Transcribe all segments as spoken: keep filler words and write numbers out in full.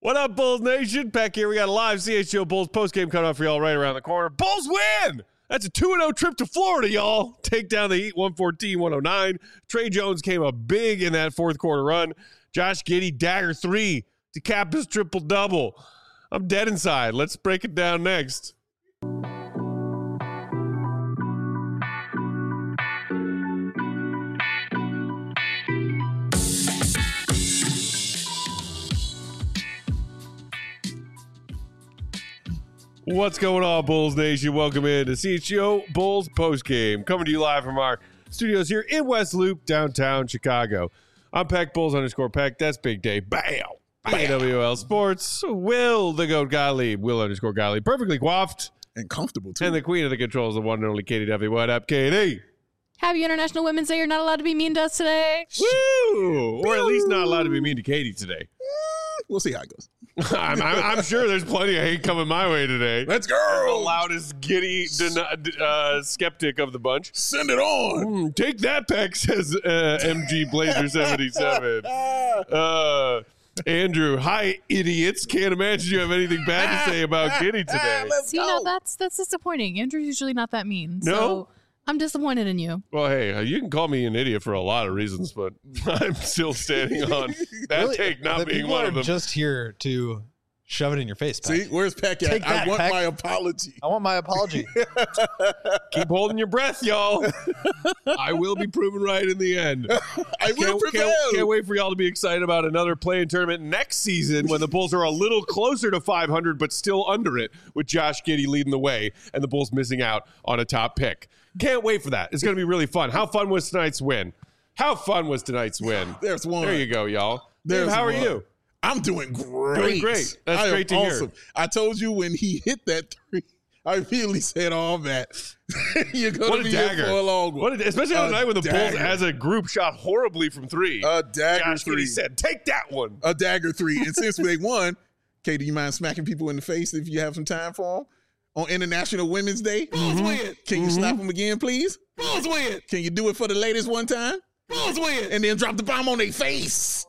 What up, Bulls Nation? Peck here. We got a live C H G O Bulls postgame coming up for y'all right around the corner. Bulls win! That's a two and oh trip to Florida, y'all. Take down the Heat one fourteen one oh nine. Trey Jones came up big in that fourth quarter run. Josh Giddey, dagger three to cap his triple-double. I'm dead inside. Let's break it down next. What's going on, Bulls Nation? Welcome in to C H G O Bulls postgame. Coming to you live from our studios here in West Loop, downtown Chicago. I'm Peck, Bulls underscore Peck. That's Big Day. Bam! A W L Sports. Will, the GOAT Gottlieb. Will underscore Gottlieb. Perfectly coiffed. And comfortable, too. And the queen of the controls, the one and only Katie Duffy. What up, Katie? Happy International Women's Day. You're not allowed to be mean to us today. Woo! Or at least not allowed to be mean to Katie today. We'll see how it goes. I'm, I'm, I'm sure there's plenty of hate coming my way today. Let's go. The loudest giddy den- uh, skeptic of the bunch. Send it on. Mm, take that, Peck, says uh, M G Blazer seventy-seven. Uh, Andrew, hi, idiots. Can't imagine you have anything bad to say about Giddy today. Let's See, go. now that's that's disappointing. Andrew's usually not that mean. No? So I'm disappointed in you. Well, hey, uh, you can call me an idiot for a lot of reasons, but I'm still standing on that Really, take not the being people one are of them. just here to shove it in your face, Peck. See, where's Peck at? Take that, I want Peck. my apology. I want my apology. Keep holding your breath, y'all. I will be proven right in the end. I will Can't, prevail. can't, can't wait for y'all to be excited about another play-in tournament next season when the Bulls are a little closer to five hundred but still under it with Josh Giddey leading the way and the Bulls missing out on a top pick. Can't wait for that. It's going to be really fun. How fun was tonight's win? How fun was tonight's win? There's one. There you go, y'all. There's Dave, how are one. you? I'm doing great. Doing great. That's I am great to hear. awesome. I told you when he hit that three, I immediately said, "Oh man, you're going What to a be dagger. in for a long one." What a, especially on A a night when the dagger. Bulls as a group shot horribly from three. A dagger Josh three. Giddey said, take that one. A dagger three. And since they won, Kay, do you mind smacking people in the face if you have some time for them? On International Women's Day? Bulls win. Can you slap them again, please? Bulls win. Can you do it for the ladies one time? Bulls win. And then drop the bomb on their face.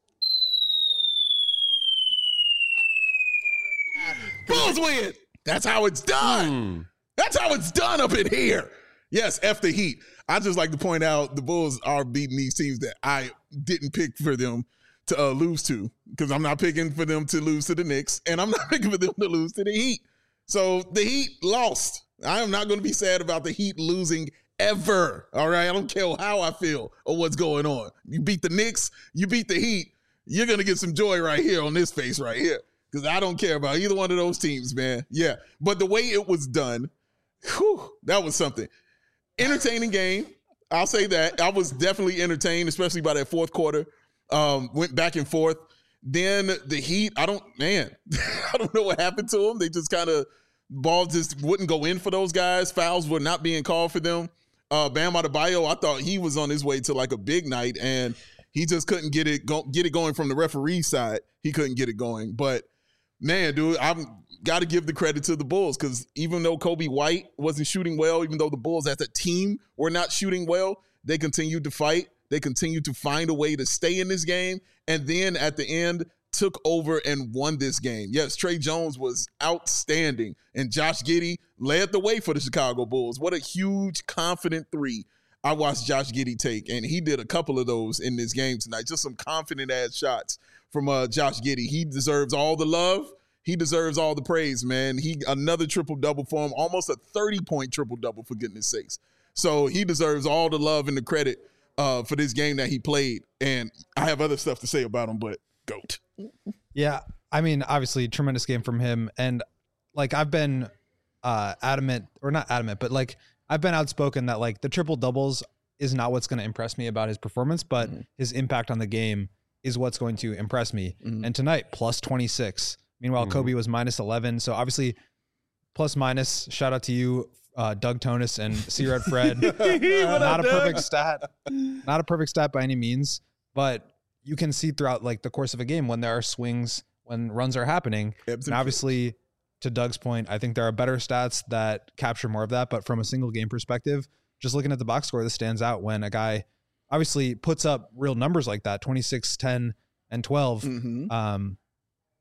Bulls win. That's how it's done. Mm. That's how it's done up in here. Yes, F the Heat. I just like to point out the Bulls are beating these teams that I didn't pick for them to uh, lose to, because I'm not picking for them to lose to the Knicks, and I'm not picking for them to lose to the Heat. So the Heat lost. I am not going to be sad about the Heat losing ever. All right? I don't care how I feel or what's going on. You beat the Knicks, you beat the Heat, you're going to get some joy right here on this face right here, because I don't care about either one of those teams, man. Yeah. But the way it was done, whew, that was something. Entertaining game. I'll say that. I was definitely entertained, especially by that fourth quarter. Um, went back and forth. Then the Heat, I don't, man, I don't know what happened to them. They just kind of, ball just wouldn't go in for those guys. Fouls were not being called for them. Uh, Bam Adebayo, I thought he was on his way to like a big night, and he just couldn't get it go, get it going from the referee side. He couldn't get it going. But, man, dude, I've got to give the credit to the Bulls, because even though Kobe White wasn't shooting well, even though the Bulls as a team were not shooting well, they continued to fight. They continued to find a way to stay in this game, and then at the end took over and won this game. Yes, Trey Jones was outstanding, and Josh Giddey led the way for the Chicago Bulls. What a huge, confident three I watched Josh Giddey take, and he did a couple of those in this game tonight. Just some confident-ass shots from uh, Josh Giddey. He deserves all the love. He deserves all the praise, man. He another triple-double for him, almost a thirty-point triple-double, for goodness sakes. So he deserves all the love and the credit uh, for this game that he played. And I have other stuff to say about him, but GOAT. Yeah, I mean, obviously, tremendous game from him. And, like, I've been uh, adamant, or not adamant, but, like, I've been outspoken that, like, the triple-doubles is not what's going to impress me about his performance, but mm-hmm. his impact on the game is what's going to impress me. Mm-hmm. And tonight, plus twenty-six. Meanwhile, mm-hmm. Kobe was minus eleven. So, obviously, plus minus, shout out to you, uh, Doug Tonis and C-Red Fred. Not a perfect stat. Not a perfect stat by any means, but you can see throughout like the course of a game when there are swings, when runs are happening. And obviously, to Doug's point, I think there are better stats that capture more of that. But from a single game perspective, just looking at the box score, this stands out when a guy obviously puts up real numbers like that, twenty-six, ten, and twelve. Mm-hmm. Um,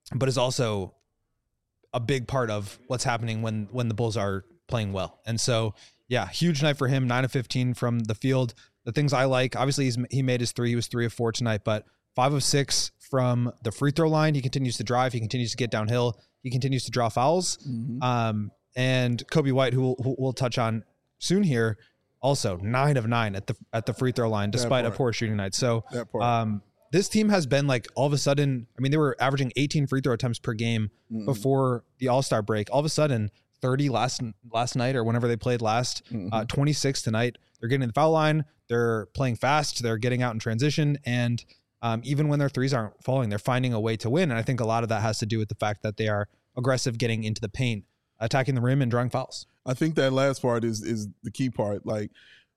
but is also a big part of what's happening when when the Bulls are playing well. And so, yeah, huge night for him, nine of fifteen from the field. The things I like, obviously he's, he made his three. He was three of four tonight, but five of six from the free throw line. He continues to drive. He continues to get downhill. He continues to draw fouls. Mm-hmm. Um, and Coby White, who we'll, who we'll touch on soon here, also nine of nine at the at the free throw line, despite a poor shooting night. So um, this team has been like all of a sudden, I mean, they were averaging eighteen free throw attempts per game mm-hmm. before the All-Star break. All of a sudden, thirty last last night or whenever they played last, mm-hmm. uh, twenty-six tonight. They're getting to the foul line. They're playing fast. They're getting out in transition. And um, even when their threes aren't falling, they're finding a way to win. And I think a lot of that has to do with the fact that they are aggressive getting into the paint, attacking the rim and drawing fouls. I think that last part is is the key part. Like,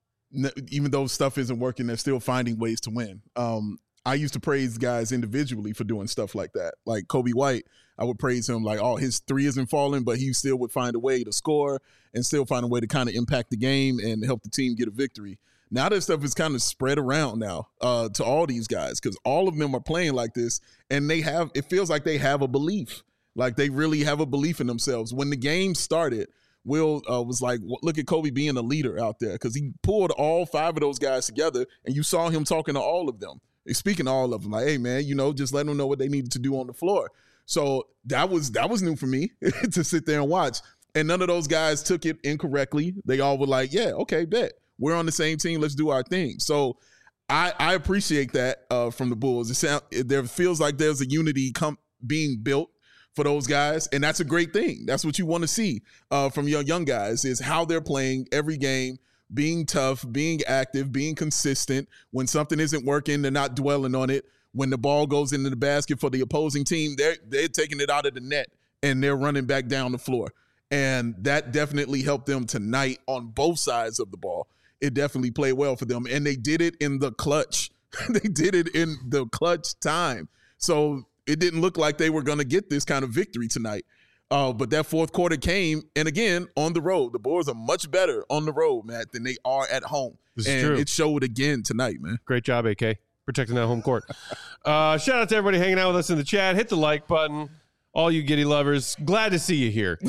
n- even though stuff isn't working, they're still finding ways to win. Um, I used to praise guys individually for doing stuff like that. Like Coby White, I would praise him like, oh, his three isn't falling, but he still would find a way to score and still find a way to kind of impact the game and help the team get a victory. Now that stuff is kind of spread around now uh, to all these guys because all of them are playing like this, and they have, it feels like they have a belief. Like they really have a belief in themselves. When the game started, Will uh, was like, look at Coby being a leader out there because he pulled all five of those guys together, and you saw him talking to all of them, speaking to all of them, like, hey, man, you know, just let them know what they needed to do on the floor. So that was that was new for me to sit there and watch. And none of those guys took it incorrectly. They all were like, yeah, okay, bet. We're on the same team. Let's do our thing. So I, I appreciate that uh, from the Bulls. It sound, there feels like there's a unity com- being built for those guys, and that's a great thing. That's what you want to see uh, from your young guys is how they're playing every game, being tough, being active, being consistent. When something isn't working, they're not dwelling on it. When the ball goes into the basket for the opposing team, they're, they're taking it out of the net, and they're running back down the floor. And that definitely helped them tonight on both sides of the ball. It definitely played well for them, and they did it in the clutch. They did it in the clutch time. So it didn't look like they were going to get this kind of victory tonight. Uh, but that fourth quarter came, and again, on the road. The Bulls are much better on the road, Matt, than they are at home. This and is true. It showed again tonight, man. Great job, A K, protecting that home court. uh, shout out to everybody hanging out with us in the chat. Hit the like button. All you Giddy lovers, glad to see you here.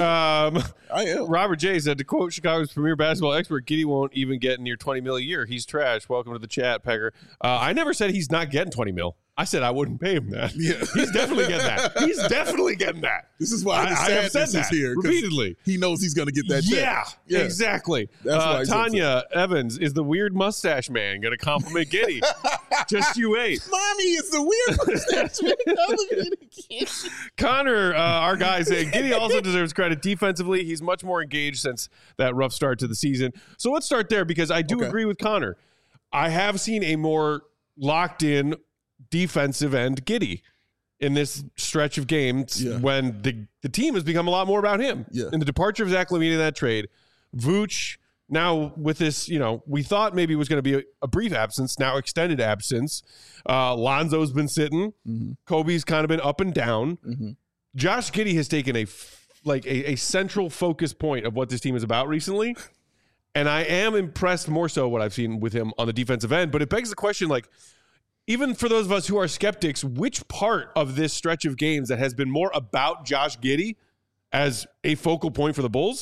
Um, I am. Robert J said, to quote Chicago's premier basketball expert, Giddy won't even get near twenty mil a year. He's trash. Welcome to the chat, Pegger. Uh, I never said he's not getting twenty mil. I said I wouldn't pay him that. Yeah. He's definitely getting that. He's definitely getting that. This is why the I, I have said sadness that is here. repeatedly. He knows he's going to get that check. Yeah, yeah, exactly. That's why uh, he's Tanya Evans is the weird mustache man going to compliment Giddy. Just you wait. Mommy is the weird mustache. Connor, uh, our guy, said Giddy also deserves credit defensively. He's much more engaged since that rough start to the season. So let's start there because I do Okay. agree with Connor. I have seen a more locked in defensive end Giddy in this stretch of games Yeah. when the, the team has become a lot more about him. Yeah. And the departure of Zach LaVine in that trade, Vooch now with this, you know, we thought maybe it was going to be a, a brief absence, now extended absence. Uh, Lonzo's been sitting. Mm-hmm. Kobe's kind of been up and down. Mm-hmm. Josh Giddey has taken a f- like a, a central focus point of what this team is about recently. And I am impressed more so what I've seen with him on the defensive end. But it begs the question, like, even for those of us who are skeptics, which part of this stretch of games that has been more about Josh Giddey as a focal point for the Bulls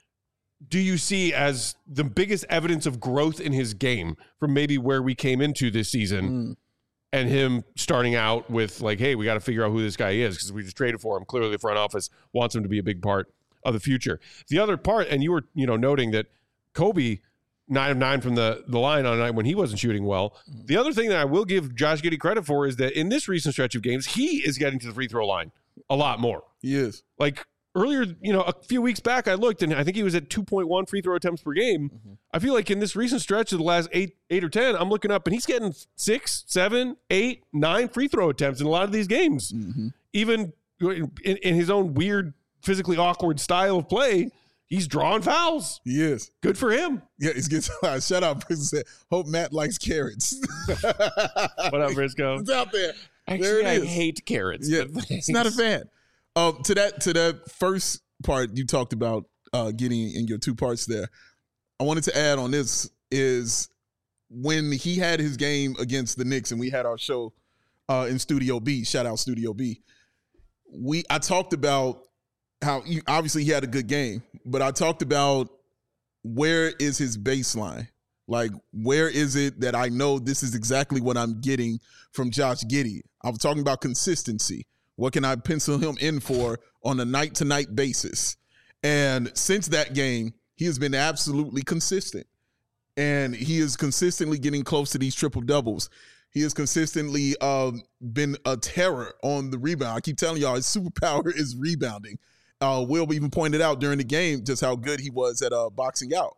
do you see as the biggest evidence of growth in his game from maybe where we came into this season mm. and him starting out with like, hey, we got to figure out who this guy is because we just traded for him. Clearly the front office wants him to be a big part of the future. The other part, and you were, you know, noting that Kobe nine of nine from the, the line on a night when he wasn't shooting well. Mm. The other thing that I will give Josh Giddey credit for is that in this recent stretch of games, he is getting to the free throw line a lot more. He is. Like, earlier, you know, a few weeks back, I looked, and I think he was at two point one free throw attempts per game. Mm-hmm. I feel like in this recent stretch of the last eight, eight or ten, I'm looking up, and he's getting six, seven, eight, nine free throw attempts in a lot of these games. Mm-hmm. Even in, in his own weird, physically awkward style of play, he's drawing fouls. He is. Good for him. Yeah, he's getting uh, shout out. Said, hope Matt likes carrots. What up, Briscoe? It's out there. Actually, there it I is. hate carrots. Yeah, it's not a fan. Um, to that to that first part you talked about uh, getting in your two parts there, I wanted to add on this is when he had his game against the Knicks and we had our show uh, in Studio B, shout out Studio B, we I talked about how he, obviously he had a good game, but I talked about where is his baseline? Like, where is it that I know this is exactly what I'm getting from Josh Giddey? I'm talking about consistency. What can I pencil him in for on a night-to-night basis? And since that game, he has been absolutely consistent. And he is consistently getting close to these triple-doubles. He has consistently uh, been a terror on the rebound. I keep telling y'all, his superpower is rebounding. Uh, Will even pointed out during the game just how good he was at uh, boxing out.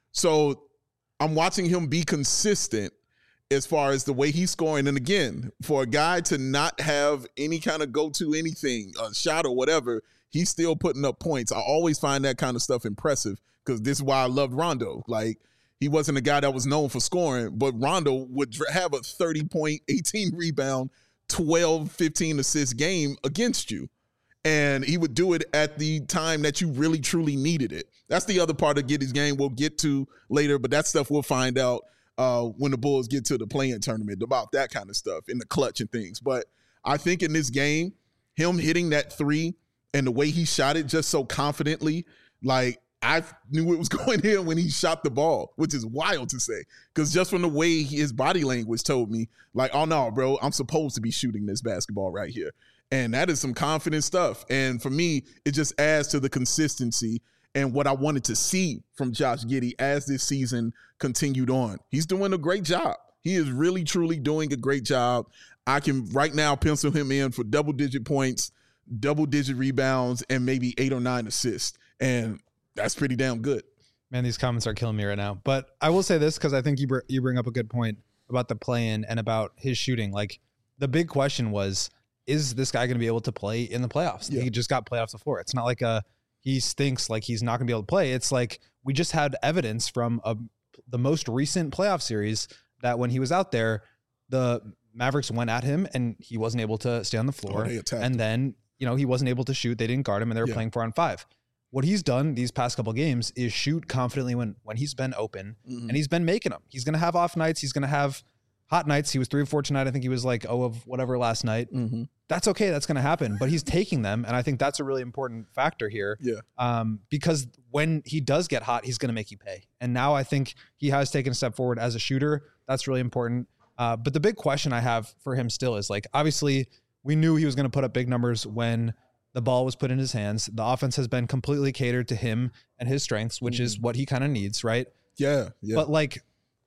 So I'm watching him be consistent as far as the way he's scoring. And again, for a guy to not have any kind of go-to anything, a shot or whatever, he's still putting up points. I always find that kind of stuff impressive because this is why I loved Rondo. Like, he wasn't a guy that was known for scoring, but Rondo would have a thirty-point, eighteen rebound, twelve, fifteen assist game against you. And he would do it at the time that you really, truly needed it. That's the other part of Giddey's game we'll get to later, but that stuff we'll find out uh, when the Bulls get to the play-in tournament about that kind of stuff in the clutch and things. But I think in this game, him hitting that three and the way he shot it just so confidently, like, I knew it was going in when he shot the ball, which is wild to say. Because just from the way he, his body language told me, like, oh, no, bro, I'm supposed to be shooting this basketball right here. And that is some confident stuff. And for me, it just adds to the consistency and what I wanted to see from Josh Giddey as this season continued on. He's doing a great job. He is really, truly doing a great job. I can right now pencil him in for double-digit points, double-digit rebounds, and maybe eight or nine assists. And that's pretty damn good. Man, these comments are killing me right now. But I will say this because I think you br- you bring up a good point about the play-in and about his shooting. Like, the big question was, is this guy going to be able to play in the playoffs? Yeah. He just got playoffs before. It's not like a he thinks like he's not going to be able to play. It's like we just had evidence from a, the most recent playoff series that when he was out there, the Mavericks went at him and he wasn't able to stay on the floor. Oh, and then, you know, he wasn't able to shoot. They didn't guard him and they were yeah. playing four on five. What he's done these past couple games is shoot confidently when, when he's been open mm-hmm. and he's been making them. He's going to have off nights. He's going to have hot nights. He was three of four tonight. I think he was like, oh, of whatever last night. Mm-hmm. That's okay. That's going to happen. But he's taking them. And I think that's a really important factor here. Yeah. Um, because when he does get hot, he's going to make you pay. And now I think he has taken a step forward as a shooter. That's really important. Uh, but the big question I have for him still is like, obviously we knew he was going to put up big numbers when the ball was put in his hands. The offense has been completely catered to him and his strengths, which mm-hmm. is what he kind of needs. Right. Yeah. Yeah. But like,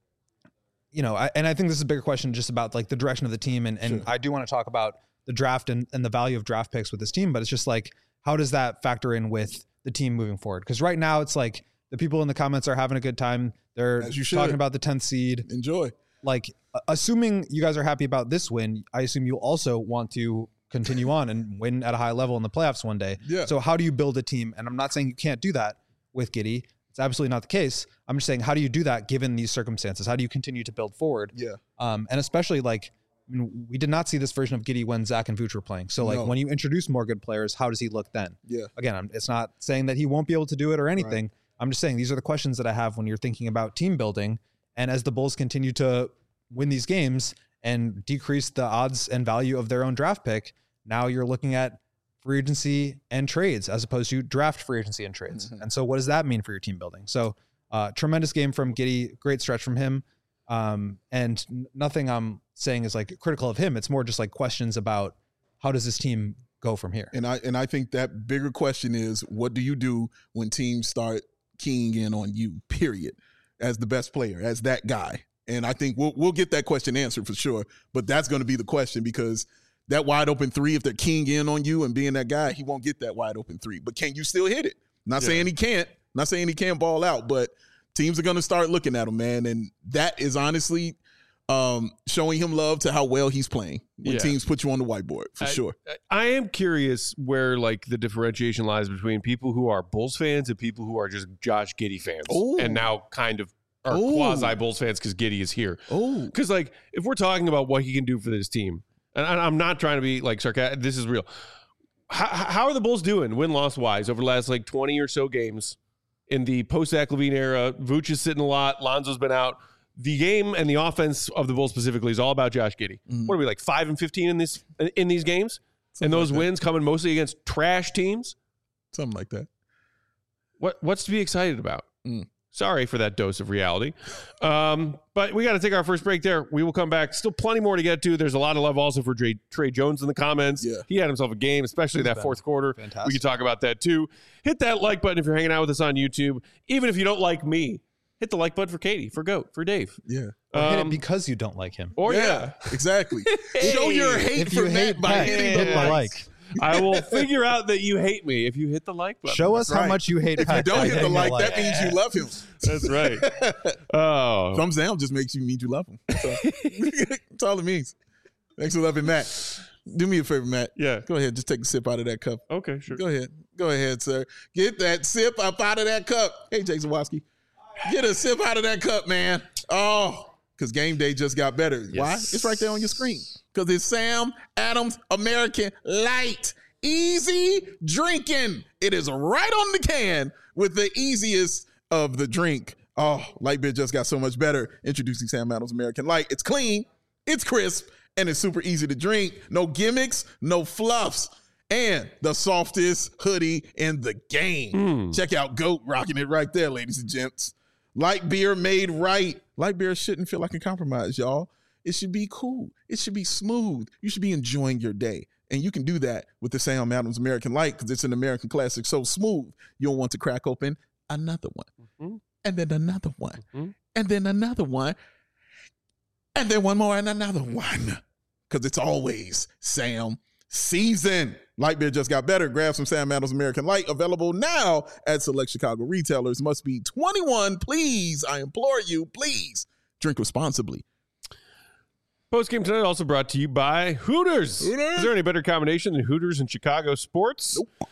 you know, I, and I think this is a bigger question just about like the direction of the team. And, and sure. I do want to talk about the draft and, and the value of draft picks with this team, but it's just like, how does that factor in with the team moving forward? Because right now it's like the people in the comments are having a good time. They're talking about the tenth seed. Enjoy. Like, assuming you guys are happy about this win, I assume you also want to continue on and win at a high level in the playoffs one day. Yeah. So how do you build a team? And I'm not saying you can't do that with Giddey. It's absolutely not the case. I'm just saying, how do you do that given these circumstances? How do you continue to build forward? Yeah. Um, and especially like, I mean, we did not see this version of Giddey when Zach and Vooch were playing. So like no. when you introduce more good players, how does he look then? Yeah. Again, I'm, it's not saying that he won't be able to do it or anything. Right. I'm just saying these are the questions that I have when you're thinking about team building. And as the Bulls continue to win these games and decrease the odds and value of their own draft pick, now you're looking at free agency and trades as opposed to draft free agency and trades. Mm-hmm. And so what does that mean for your team building? So uh, tremendous game from Giddey, great stretch from him. Um, and nothing I'm saying is like critical of him. It's more just like questions about how does this team go from here? And I, and I think that bigger question is, what do you do when teams start keying in on you, period, as the best player, as that guy? And I think we'll, we'll get that question answered for sure, but that's going to be the question because that wide open three, if they're keying in on you and being that guy, he won't get that wide open three, but can you still hit it? Not yeah. saying he can't, not saying he can't ball out, but teams are going to start looking at him, man. And that is honestly um, showing him love to how well he's playing when yeah. teams put you on the whiteboard, for I, sure. I am curious where, like, the differentiation lies between people who are Bulls fans and people who are just Josh Giddey fans. Ooh. And now kind of are Ooh. quasi-Bulls fans because Giddey is here. Oh, Because, like, if we're talking about what he can do for this team, and I'm not trying to be, like, sarcastic, this is real. How, how are the Bulls doing win-loss-wise over the last, like, twenty or so games? In the post-Zach LaVine era, Vooch is sitting a lot. Lonzo's been out. The game and the offense of the Bulls specifically is all about Josh Giddey. Mm-hmm. What are we, like five and fifteen in this in these games? and those like wins coming mostly against trash teams. Something like that. What what's to be excited about? Mm. Sorry for that dose of reality. Um, but we got to take our first break there. We will come back. Still plenty more to get to. There's a lot of love also for Trey, Trey Jones in the comments. Yeah. He had himself a game, especially He's that been fourth quarter. fantastic. We can talk about that too. Hit that like button if you're hanging out with us on YouTube. Even if you don't like me, hit the like button for Katie, for Goat, for Dave. Yeah. Or hit Um, it because you don't like him. Or yeah. exactly. Show your hate If for you hate Matt by Matt, hitting hit the the like. like. I will figure out that you hate me if you hit the like button. Show us That's how right. much you hate If you Pat don't by hit the hitting like, that means you love him. That's right. Oh. Thumbs down just makes you mean you love him. That's all, That's all it means. Thanks for loving Matt. Do me a favor, Matt. Yeah. Go ahead. Just take a sip out of that cup. Okay, sure. Go ahead. Go ahead, sir. Get that sip up out of that cup. Hey, Jake Zawoski. Get a sip out of that cup, man. Oh, because game day just got better. Yes. Why? It's right there on your screen. Because it's Sam Adams American Light. Easy drinking. It is right on the can with the easiest of the drink. Oh, light beer just got so much better. Introducing Sam Adams American Light. It's clean, it's crisp, and it's super easy to drink. No gimmicks, no fluffs. And the softest hoodie in the game. Mm. Check out GOAT rocking it right there, ladies and gents. Light beer made right. Light beer shouldn't feel like a compromise, y'all. It should be cool. It should be smooth. You should be enjoying your day. And you can do that with the Sam Adams American Light because it's an American classic so smooth, you'll want to crack open another one. Mm-hmm. And then another one. Mm-hmm. And then another one. And then one more and another one. Because it's always Sam season. Light beer just got better. Grab some Sam Adams American Light. Available now at select Chicago retailers. Must be twenty-one. Please, I implore you, please drink responsibly. Post game tonight also brought to you by Hooters. Hooters. Is there any better combination than Hooters and Chicago sports? Nope.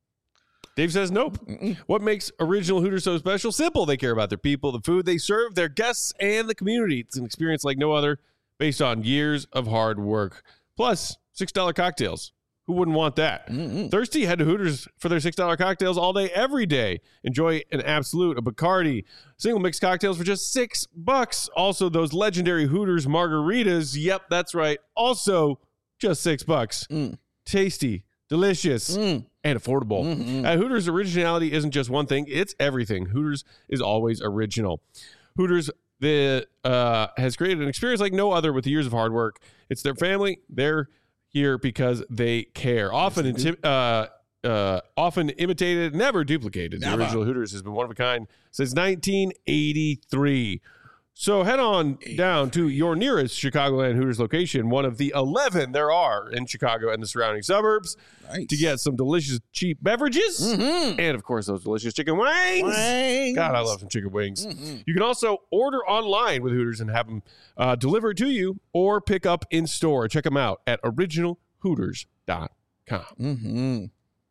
Dave says nope. Mm-mm. What makes original Hooters so special? Simple. They care about their people, the food they serve, their guests, and the community. It's an experience like no other based on years of hard work. Plus, six dollar cocktails. Who wouldn't want that? Mm-mm. Thirsty? Head to Hooters for their six dollar cocktails all day, every day. Enjoy an Absolute, a Bacardi, single mix cocktails for just six bucks. Also, those legendary Hooters margaritas. Yep, that's right. Also, just six bucks. Mm. Tasty, delicious, Mm. and affordable. Mm-mm. At Hooters, originality isn't just one thing, it's everything. Hooters is always original. Hooters the, uh, has created an experience like no other with years of hard work. It's their family. They're here because they care. Often, Yes, they inti- uh, uh, often imitated, never duplicated. Never. The original Hooters has been one of a kind since nineteen eighty-three. So head on down to your nearest Chicagoland Hooters location, one of the eleven there are in Chicago and the surrounding suburbs, Nice. to get some delicious cheap beverages Mm-hmm. and, of course, those delicious chicken wings. Wings. God, I love some chicken wings. Mhm. You can also order online with Hooters and have them uh, delivered to you or pick up in store. Check them out at original hooters dot com. Mm-hmm.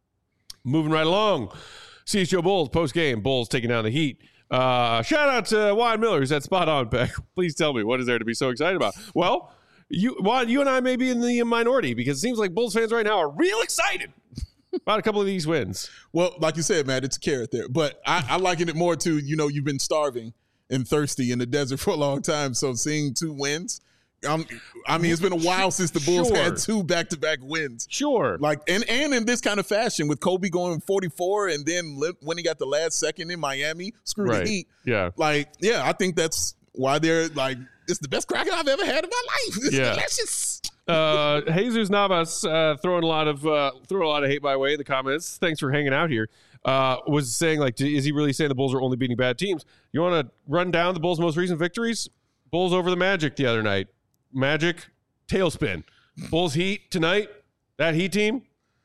Moving right along. C H G O Bulls post-game. Bulls taking down the Heat. Uh, shout out to Juan Miller, who's at Spot On Pack. Please tell me, what is there to be so excited about? Well, you, Juan, you and I may be in the minority because it seems like Bulls fans right now are real excited about a couple of these wins. Well, like you said, Matt, it's a carrot there. But I, I liken it more to, you know, you've been starving and thirsty in the desert for a long time. So seeing two wins, um, I mean, it's been a while since the Bulls Sure. had two back-to-back wins. Sure. Like, and, and in this kind of fashion with Kobe going forty-four and then li- when he got the last second in Miami, screw Right. the Heat. Yeah. Like, yeah, I think that's why they're like, it's the best cracker I've ever had in my life. It's Yeah. delicious. Uh, Jesus Navas uh, throwing a lot of uh, throwing a lot of hate my way in the comments. Thanks for hanging out here. Uh, was saying like, is he really saying the Bulls are only beating bad teams? You want to run down the Bulls' most recent victories? Bulls over the Magic the other night. Magic tailspin. Bulls Heat tonight. That Heat team.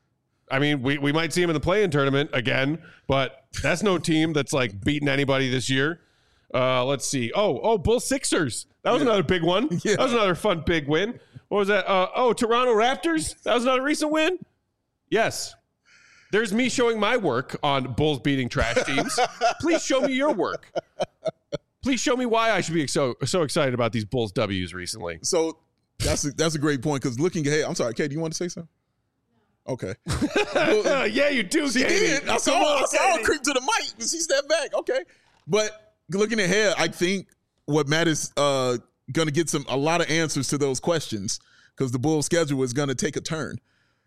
I mean, we, we might see him in the play-in tournament again, but that's no team that's like beating anybody this year. Uh, let's see. Oh, oh, Bulls Sixers. That was Yeah. another big one. Yeah. That was another fun big win. What was that? Uh, oh, Toronto Raptors. That was another recent win. Yes. There's me showing my work on Bulls beating trash teams. Please show me your work. Please show me why I should be so so excited about these Bulls W's recently. So that's a, that's a great point because looking ahead, I'm sorry, Kate, do you want to say something? Okay. Well, Yeah, you do. she Katie. did. I saw, Come on, I saw her Katie. creep to the mic, but she stepped back. Okay. But looking ahead, I think what Matt is uh, going to get some a lot of answers to those questions because the Bulls schedule is going to take a turn.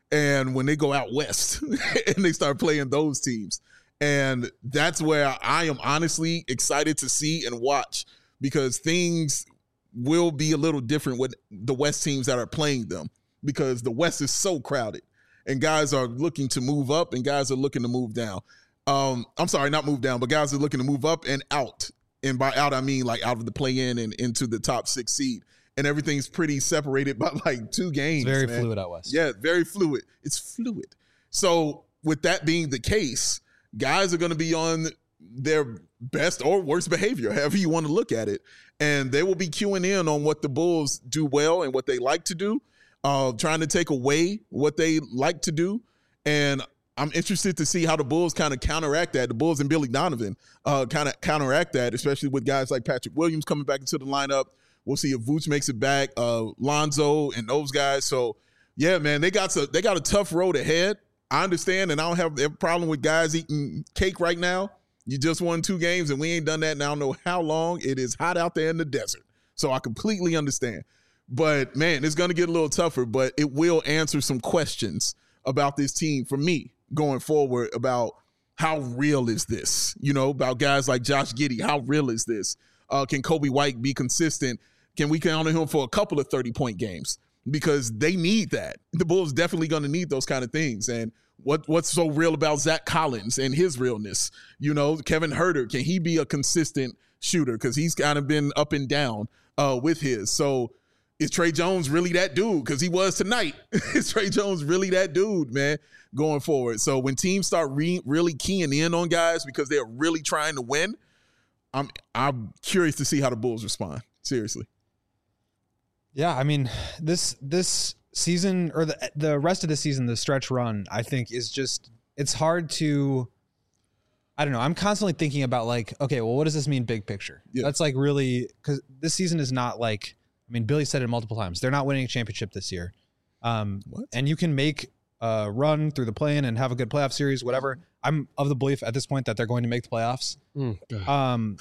And when they go out west and they start playing those teams. And that's where I am honestly excited to see and watch, because things will be a little different with the West teams that are playing them, because the West is so crowded and guys are looking to move up and guys are looking to move down. Um, I'm sorry, not move down, but guys are looking to move up and out. And by out, I mean like out of the play-in and into the top six seed. And everything's pretty separated by like two games. It's very man. fluid out west. Yeah, very fluid. It's fluid. So with that being the case, guys are going to be on their best or worst behavior, however you want to look at it. And they will be queuing in on what the Bulls do well and what they like to do, uh, trying to take away what they like to do. And I'm interested to see how the Bulls kind of counteract that. The Bulls and Billy Donovan uh, kind of counteract that, especially with guys like Patrick Williams coming back into the lineup. We'll see if Vooch makes it back, uh, Lonzo and those guys. So, yeah, man, they got to, they got a tough road ahead. I understand, and I don't have a problem with guys eating cake right now. You just won two games, and we ain't done that in I don't know how long. It is hot out there in the desert. So I completely understand. But, man, it's going to get a little tougher, but it will answer some questions about this team for me going forward about how real is this? You know, about guys like Josh Giddey, how real is this? Uh, can Kobe White be consistent? Can we count on him for a couple of thirty-point games? Because they need that. The Bulls definitely going to need those kind of things. And what what's so real about Zach Collins and his realness? You know, Kevin Huerter, can he be a consistent shooter? Because he's kind of been up and down uh, with his. So is Trey Jones really that dude? Because he was tonight. Is Trey Jones really that dude, man, going forward? So when teams start re- really keying in on guys because they're really trying to win, I'm I'm curious to see how the Bulls respond. Seriously. Yeah, I mean, this this season or the the rest of the season, the stretch run, I think is just, it's hard to, I don't know. I'm constantly thinking about like, okay, well, what does this mean big picture? Yeah. That's like really, because this season is not like, I mean, Billy said it multiple times. They're not winning a championship this year. Um, What? And you can make a run through the play-in and have a good playoff series, whatever. I'm of the belief at this point that they're going to make the playoffs. Mm, Um,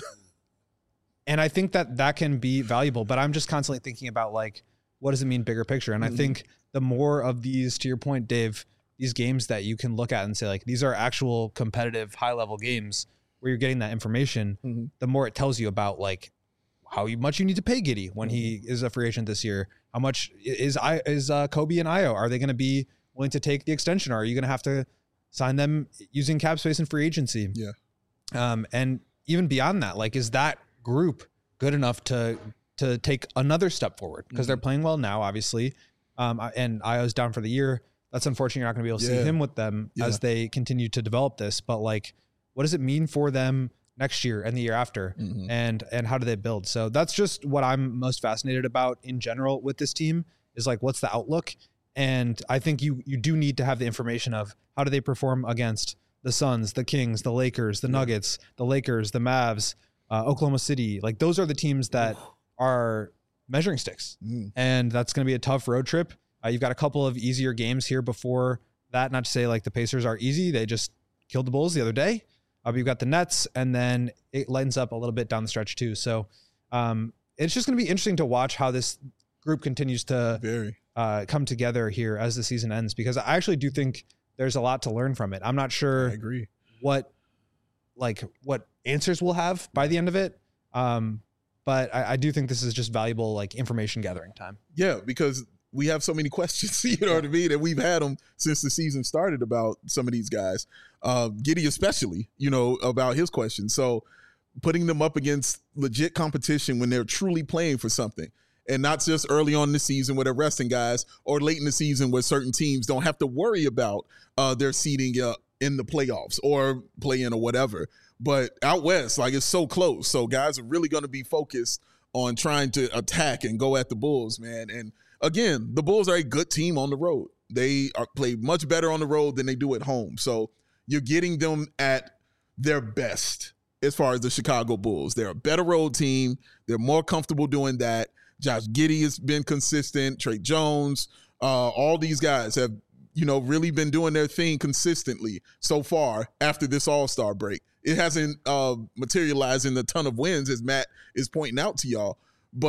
and I think that that can be valuable, but I'm just constantly thinking about like, what does it mean bigger picture? And Mm-hmm. I think the more of these, to your point, Dave, these games that you can look at and say like, these are actual competitive high level games where you're getting that information, Mm-hmm. the more it tells you about like how much you need to pay Giddey when he is a free agent this year. How much is I is uh, Kobe and Io? Are they going to be willing to take the extension? Or are you going to have to sign them using cap space and free agency? Yeah. Um, and even beyond that, like, is that group good enough to to take another step forward? Because Mm-hmm. they're playing well now, obviously. Um, and Io's down for the year. That's unfortunate. You're not going to be able to Yeah. see him with them Yeah. as they continue to develop this. But like, what does it mean for them next year and the year after? Mhm. And and how do they build? So that's just what I'm most fascinated about in general with this team is like, what's the outlook? And I think you you do need to have the information of how do they perform against the Suns, the Kings, the Lakers, the Nuggets, the Lakers, the Mavs, uh, Oklahoma City. Like those are the teams that are measuring sticks. Mm. And that's going to be a tough road trip. Uh, you've got a couple of easier games here before that. Not to say like the Pacers are easy. They just killed the Bulls the other day. Uh, but you've got the Nets, and then it lightens up a little bit down the stretch too. So um, it's just going to be interesting to watch how this group continues to Very. uh, come together here as the season ends, because I actually do think there's a lot to learn from it. I'm not sure I agree. what like what answers we'll have by the end of it. Um, but I, I do think this is just valuable like information gathering time. Yeah, because we have so many questions, you know what I mean? And we've had them since the season started about some of these guys. Uh, Giddey especially, you know, about his questions. So putting them up against legit competition when they're truly playing for something, and not just early on in the season where they're resting guys, or late in the season where certain teams don't have to worry about uh, their seeding uh, in the playoffs or play-in or whatever. But out west, like, it's so close. So guys are really going to be focused on trying to attack and go at the Bulls, man. And again, the Bulls are a good team on the road. They are play much better on the road than they do at home. So you're getting them at their best as far as the Chicago Bulls. They're a better road team. They're more comfortable doing that. Josh Giddey has been consistent. Trey Jones, uh, all these guys have, you know, really been doing their thing consistently so far after this All-Star break. It hasn't uh, materialized in a ton of wins, as Matt is pointing out to y'all, but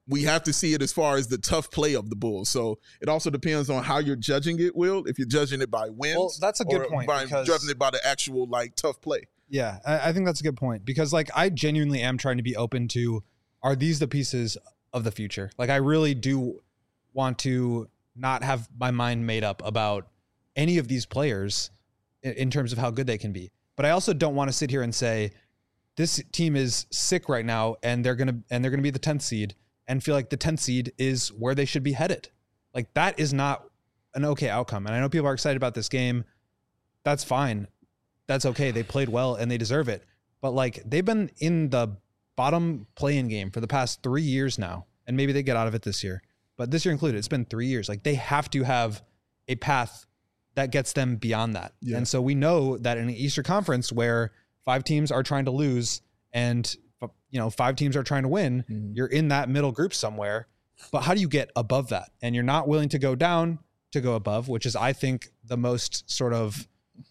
we have to see it as far as the tough play of the Bulls. So it also depends on how you're judging it, Will. If you're judging it by wins, Well, that's a good or point, by because- judging it by the actual like tough play. Yeah, I, I think that's a good point because like I genuinely am trying to be open to, are these the pieces of the future? Like I really do want to not have my mind made up about any of these players in, in terms of how good they can be. But I also don't want to sit here and say this team is sick right now and they're gonna and they're gonna be the tenth seed and feel like the tenth seed is where they should be headed. Like that is not an okay outcome. And I know people are excited about this game. That's fine. That's okay. They played well and they deserve it. But like they've been in the bottom play-in game for the past three years now. And maybe they get out of it this year. But this year included, it's been three years. Like they have to have a path that gets them beyond that. Yeah. And so we know that in the Eastern Conference where five teams are trying to lose and you know five teams are trying to win, Mhm. you're in that middle group somewhere. But how do you get above that? And you're not willing to go down to go above, which is, I think, the most sort of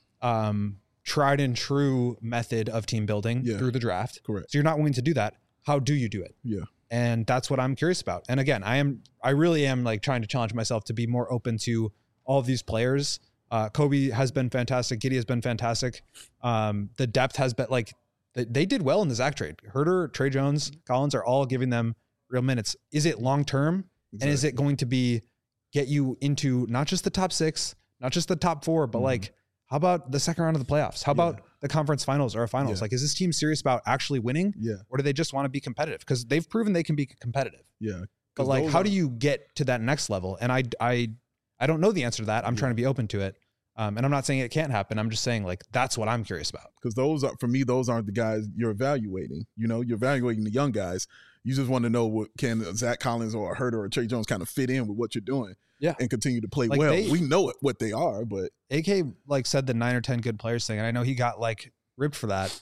um, tried and true method of team building Yeah. through the draft. Correct. So you're not willing to do that. How do you do it? Yeah. And that's what I'm curious about. And again, I am, I really am like trying to challenge myself to be more open to all of these players. Uh, Kobe has been fantastic. Giddey has been fantastic. Um, the depth has been like, they, they did well in the Zach trade. Herter, Trey Jones, Collins are all giving them real minutes. Is it long-term? And is it going to be get you into not just the top six, not just the top four, but Mhm. like, how about the second round of the playoffs? How about Yeah. the conference finals or a finals? Yeah. Like, is this team serious about actually winning? Yeah. Or do they just want to be competitive? Because they've proven they can be competitive. Yeah. But 'Cause like, those how are- do you get to that next level? And I, I, I don't know the answer to that. I'm Yeah. trying to be open to it. Um, and I'm not saying it can't happen. I'm just saying like, that's what I'm curious about. because those are for me those aren't the guys you're evaluating. You know, you're evaluating the young guys. You just want to know what can Zach Collins or a Herter or Trey Jones kind of fit in with what you're doing, Yeah. and continue to play Like well. they- we know it, what they are, but A K like said the nine or ten good players thing, and I know he got like ripped for that.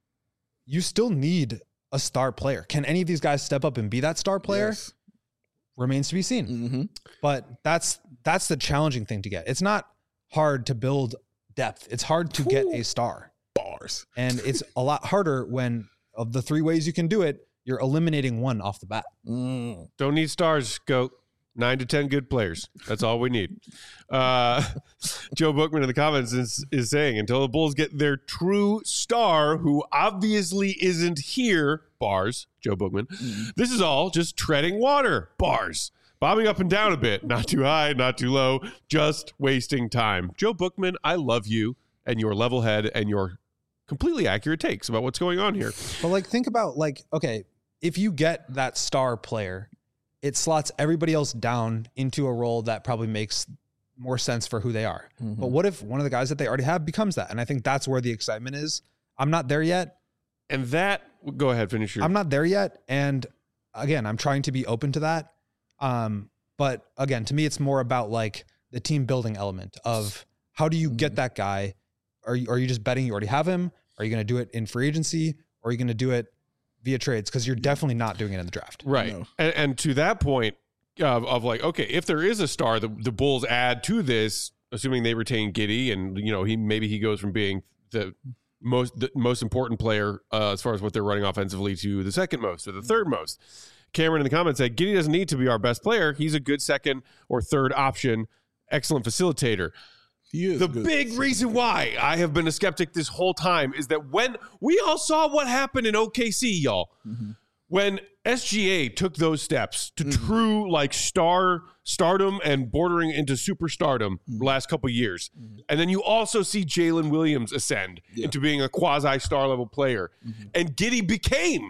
You still need a star player. Can any of these guys step up and be that star player? yes. Remains to be seen. Mm-hmm. But that's that's the challenging thing to get. It's not hard to build depth. It's hard to get a star. Bars. And it's a lot harder when of the three ways you can do it, you're eliminating one off the bat. Mm. Don't need stars, Goat. Nine to ten good players. That's all we need. Uh, Joe Bookman in the comments is, is saying, until the Bulls get their true star, who obviously isn't here, bars, Joe Bookman, this is all just treading water, bars. Bobbing up and down a bit. Not too high, not too low, just wasting time. Joe Bookman, I love you and your level head and your completely accurate takes about what's going on here. But like, think about like, okay, if you get that star player, it slots everybody else down into a role that probably makes more sense for who they are. Mm-hmm. But what if one of the guys that they already have becomes that? And I think that's where the excitement is. I'm not there yet. And that, go ahead, finish your. I'm not there yet. And again, I'm trying to be open to that. Um, but again, to me, it's more about like the team building element of how do you get that guy? Are you, are you just betting you already have him? Are you going to do it in free agency? Or are you going to do it via trades? Because you're definitely not doing it in the draft. Right. No. And, and to that point of, of like, okay, if there is a star, the, the Bulls add to this, assuming they retain Giddey and, you know, he maybe he goes from being the most the most important player uh, as far as what they're running offensively to the second most or the third most. Cameron in the comments said, Giddey doesn't need to be our best player. He's a good second or third option. Excellent facilitator. He is The good. big reason why I have been a skeptic this whole time is that when we all saw what happened in O K C, y'all, Mm-hmm. when S G A took those steps to true like star stardom and bordering into superstardom Mm-hmm. the last couple years, and then you also see Jalen Williams ascend Yeah. into being a quasi star level player, Mm-hmm. and Giddey became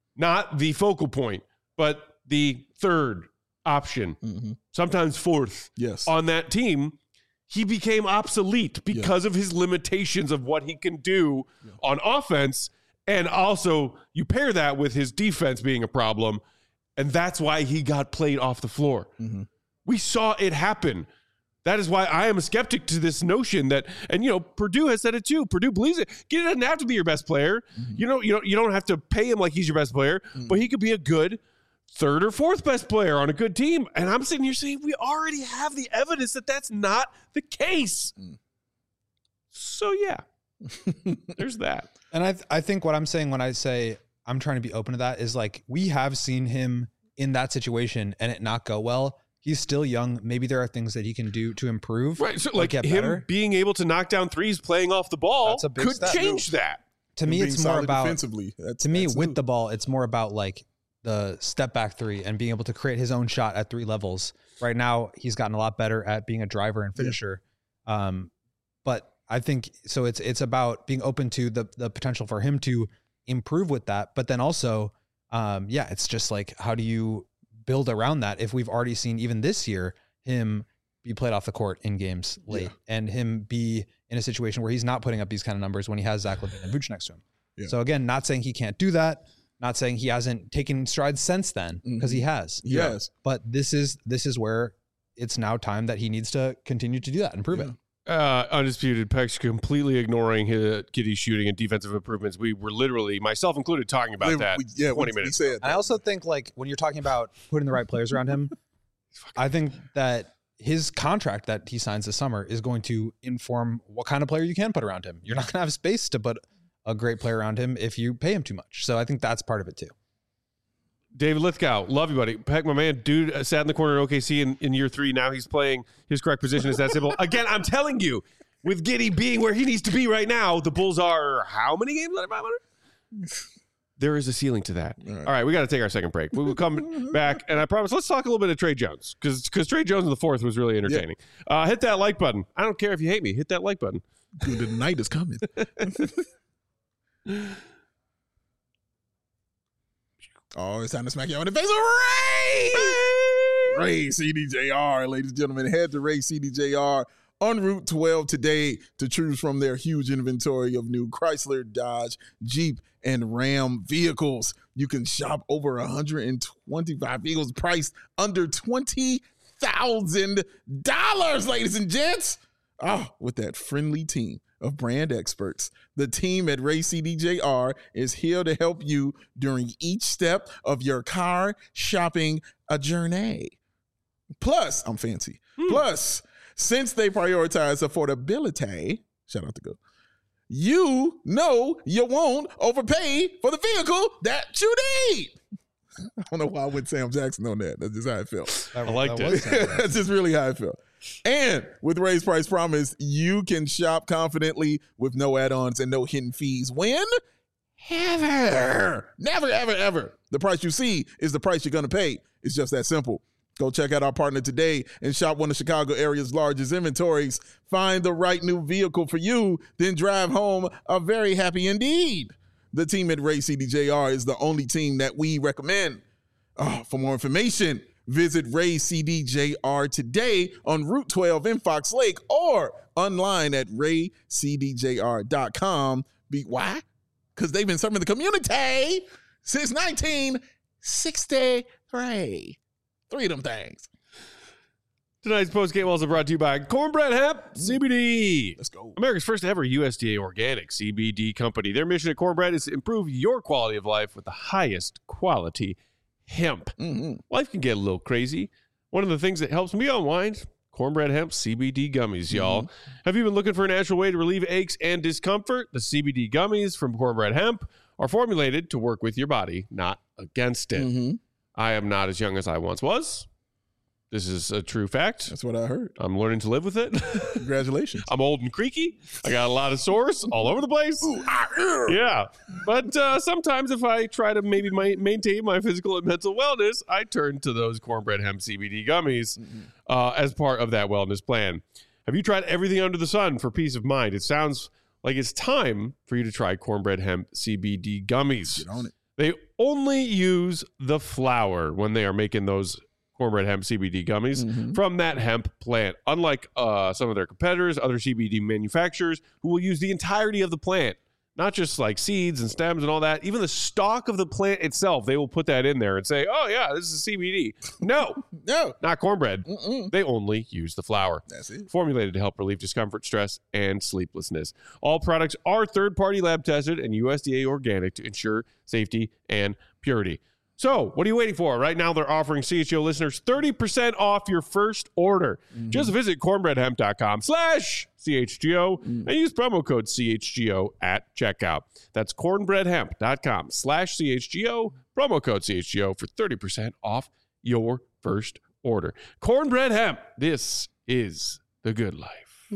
not the focal point, but the third option, Mm-hmm. sometimes fourth Yes. on that team. He became obsolete because of his limitations of what he can do on offense. And also, you pair that with his defense being a problem, and that's why he got played off the floor. Mm-hmm. We saw it happen. That is why I am a skeptic to this notion that, and you know, Purdue has said it too. Purdue believes it. Giddey doesn't have to be your best player. Mm-hmm. You know, you don't, you don't have to pay him like he's your best player, but he could be a good third or fourth best player on a good team. And I'm sitting here saying we already have the evidence that that's not the case. Mm. So yeah, there's that. And I, th- I think what I'm saying when I say I'm trying to be open to that is like, we have seen him in that situation and it not go well, he's still young. Maybe there are things that he can do to improve. Right. So like get him better. being able to knock down threes playing off the ball That's a big could step. change that. To me, Being it's more solid about defensively. That's, to me that's with new. the ball, it's more about like the step back three and being able to create his own shot at three levels. Right now, he's gotten a lot better at being a driver and finisher. Yeah. Um, but I think so. It's it's about being open to the the potential for him to improve with that. But then also, um, yeah, it's just like how do you build around that if we've already seen even this year him be played off the court in games late yeah. and him be in a situation where he's not putting up these kind of numbers when he has Zach LaVine and Vooch next to him. Yeah. So again, not saying he can't do that, not saying he hasn't taken strides since then, because mm-hmm. he has. Yes. But this is this is where it's now time that he needs to continue to do that and prove yeah. it. Uh, undisputed Peck's completely ignoring his Giddey's shooting and defensive improvements. We were literally, myself included, talking about we, that we, yeah, twenty we, minutes. We said I also think like when you're talking about putting the right players around him, I think that his contract that he signs this summer is going to inform what kind of player you can put around him. You're not going to have space to put a great player around him if you pay him too much. So I think that's part of it too. David Lithgow, love you, buddy. Peck, my man, dude uh, sat in the corner in O K C in, in year three. Now he's playing his correct position. Is that simple? Again, I'm telling you, with Giddey being where he needs to be right now, the Bulls are how many games under five hundred? There is a ceiling to that. All right, All right we got to take our second break. We will come back, and I promise, let's talk a little bit of Trey Jones, because because Trey Jones in the fourth was really entertaining. Yeah. Uh, hit that like button. I don't care if you hate me. Hit that like button. Dude, the night is coming. Oh, it's time to smack you on the face of Ray! Ray C D J R, ladies and gentlemen. Head to Ray C D J R on Route twelve today to choose from their huge inventory of new Chrysler, Dodge, Jeep, and Ram vehicles. You can shop over one hundred twenty-five vehicles priced under twenty thousand dollars, ladies and gents. Oh, with that friendly team of brand experts. The team at Ray C D J R is here to help you during each step of your car shopping a journey. Plus, I'm fancy. Hmm. Plus, since they prioritize affordability, shout out to Go, you know you won't overpay for the vehicle that you need. I don't know why I went Sam Jackson on that. That's just how I felt. I liked it. That's just really how I felt. And with Ray's Price Promise, you can shop confidently with no add-ons and no hidden fees. When? Ever. Never, ever, ever. The price you see is the price you're going to pay. It's just that simple. Go check out our partner today and shop one of Chicago area's largest inventories. Find the right new vehicle for you, then drive home a very happy indeed. The team at Ray C D J R is the only team that we recommend. Oh, for more information, visit Ray C D J R today on Route twelve in Fox Lake or online at ray c d j r dot com. Be, why? Because they've been serving the community since nineteen sixty-three. Three of them things. Tonight's postgame also brought to you by Cornbread Hemp C B D. Let's go. America's first ever U S D A organic C B D company. Their mission at Cornbread is to improve your quality of life with the highest quality hemp. Mm-hmm. Life can get a little crazy. One of the things that helps me unwind, Cornbread Hemp C B D gummies, y'all. Mm-hmm. Have you been looking for a natural way to relieve aches and discomfort? The C B D gummies from Cornbread Hemp are formulated to work with your body, not against it. Mm-hmm. I am not as young as I once was. This is a true fact. That's what I heard. I'm learning to live with it. Congratulations. I'm old and creaky. I got a lot of sores all over the place. Ooh, ah, yeah. But uh, sometimes if I try to maybe my, maintain my physical and mental wellness, I turn to those Cornbread Hemp C B D gummies mm-hmm. uh, as part of that wellness plan. Have you tried everything under the sun for peace of mind? It sounds like it's time for you to try Cornbread Hemp C B D gummies. Get on it. They only use the flower when they are making those Cornbread Hemp C B D gummies mm-hmm. from that hemp plant. Unlike uh, some of their competitors, other C B D manufacturers who will use the entirety of the plant, not just like seeds and stems and all that, even the stalk of the plant itself, they will put that in there and say, oh yeah, this is C B D. No, no, not cornbread. Mm-mm. They only use the flower. That's it. Formulated to help relieve discomfort, stress, and sleeplessness. All products are third-party lab tested and U S D A organic to ensure safety and purity. So what are you waiting for? Right now, they're offering C H G O listeners thirty percent off your first order. Mm-hmm. Just visit cornbreadhemp.com slash CHGO mm. and use promo code C H G O at checkout. That's cornbreadhemp.com slash CHGO, promo code C H G O for thirty percent off your first order. Cornbread Hemp, this is the good life.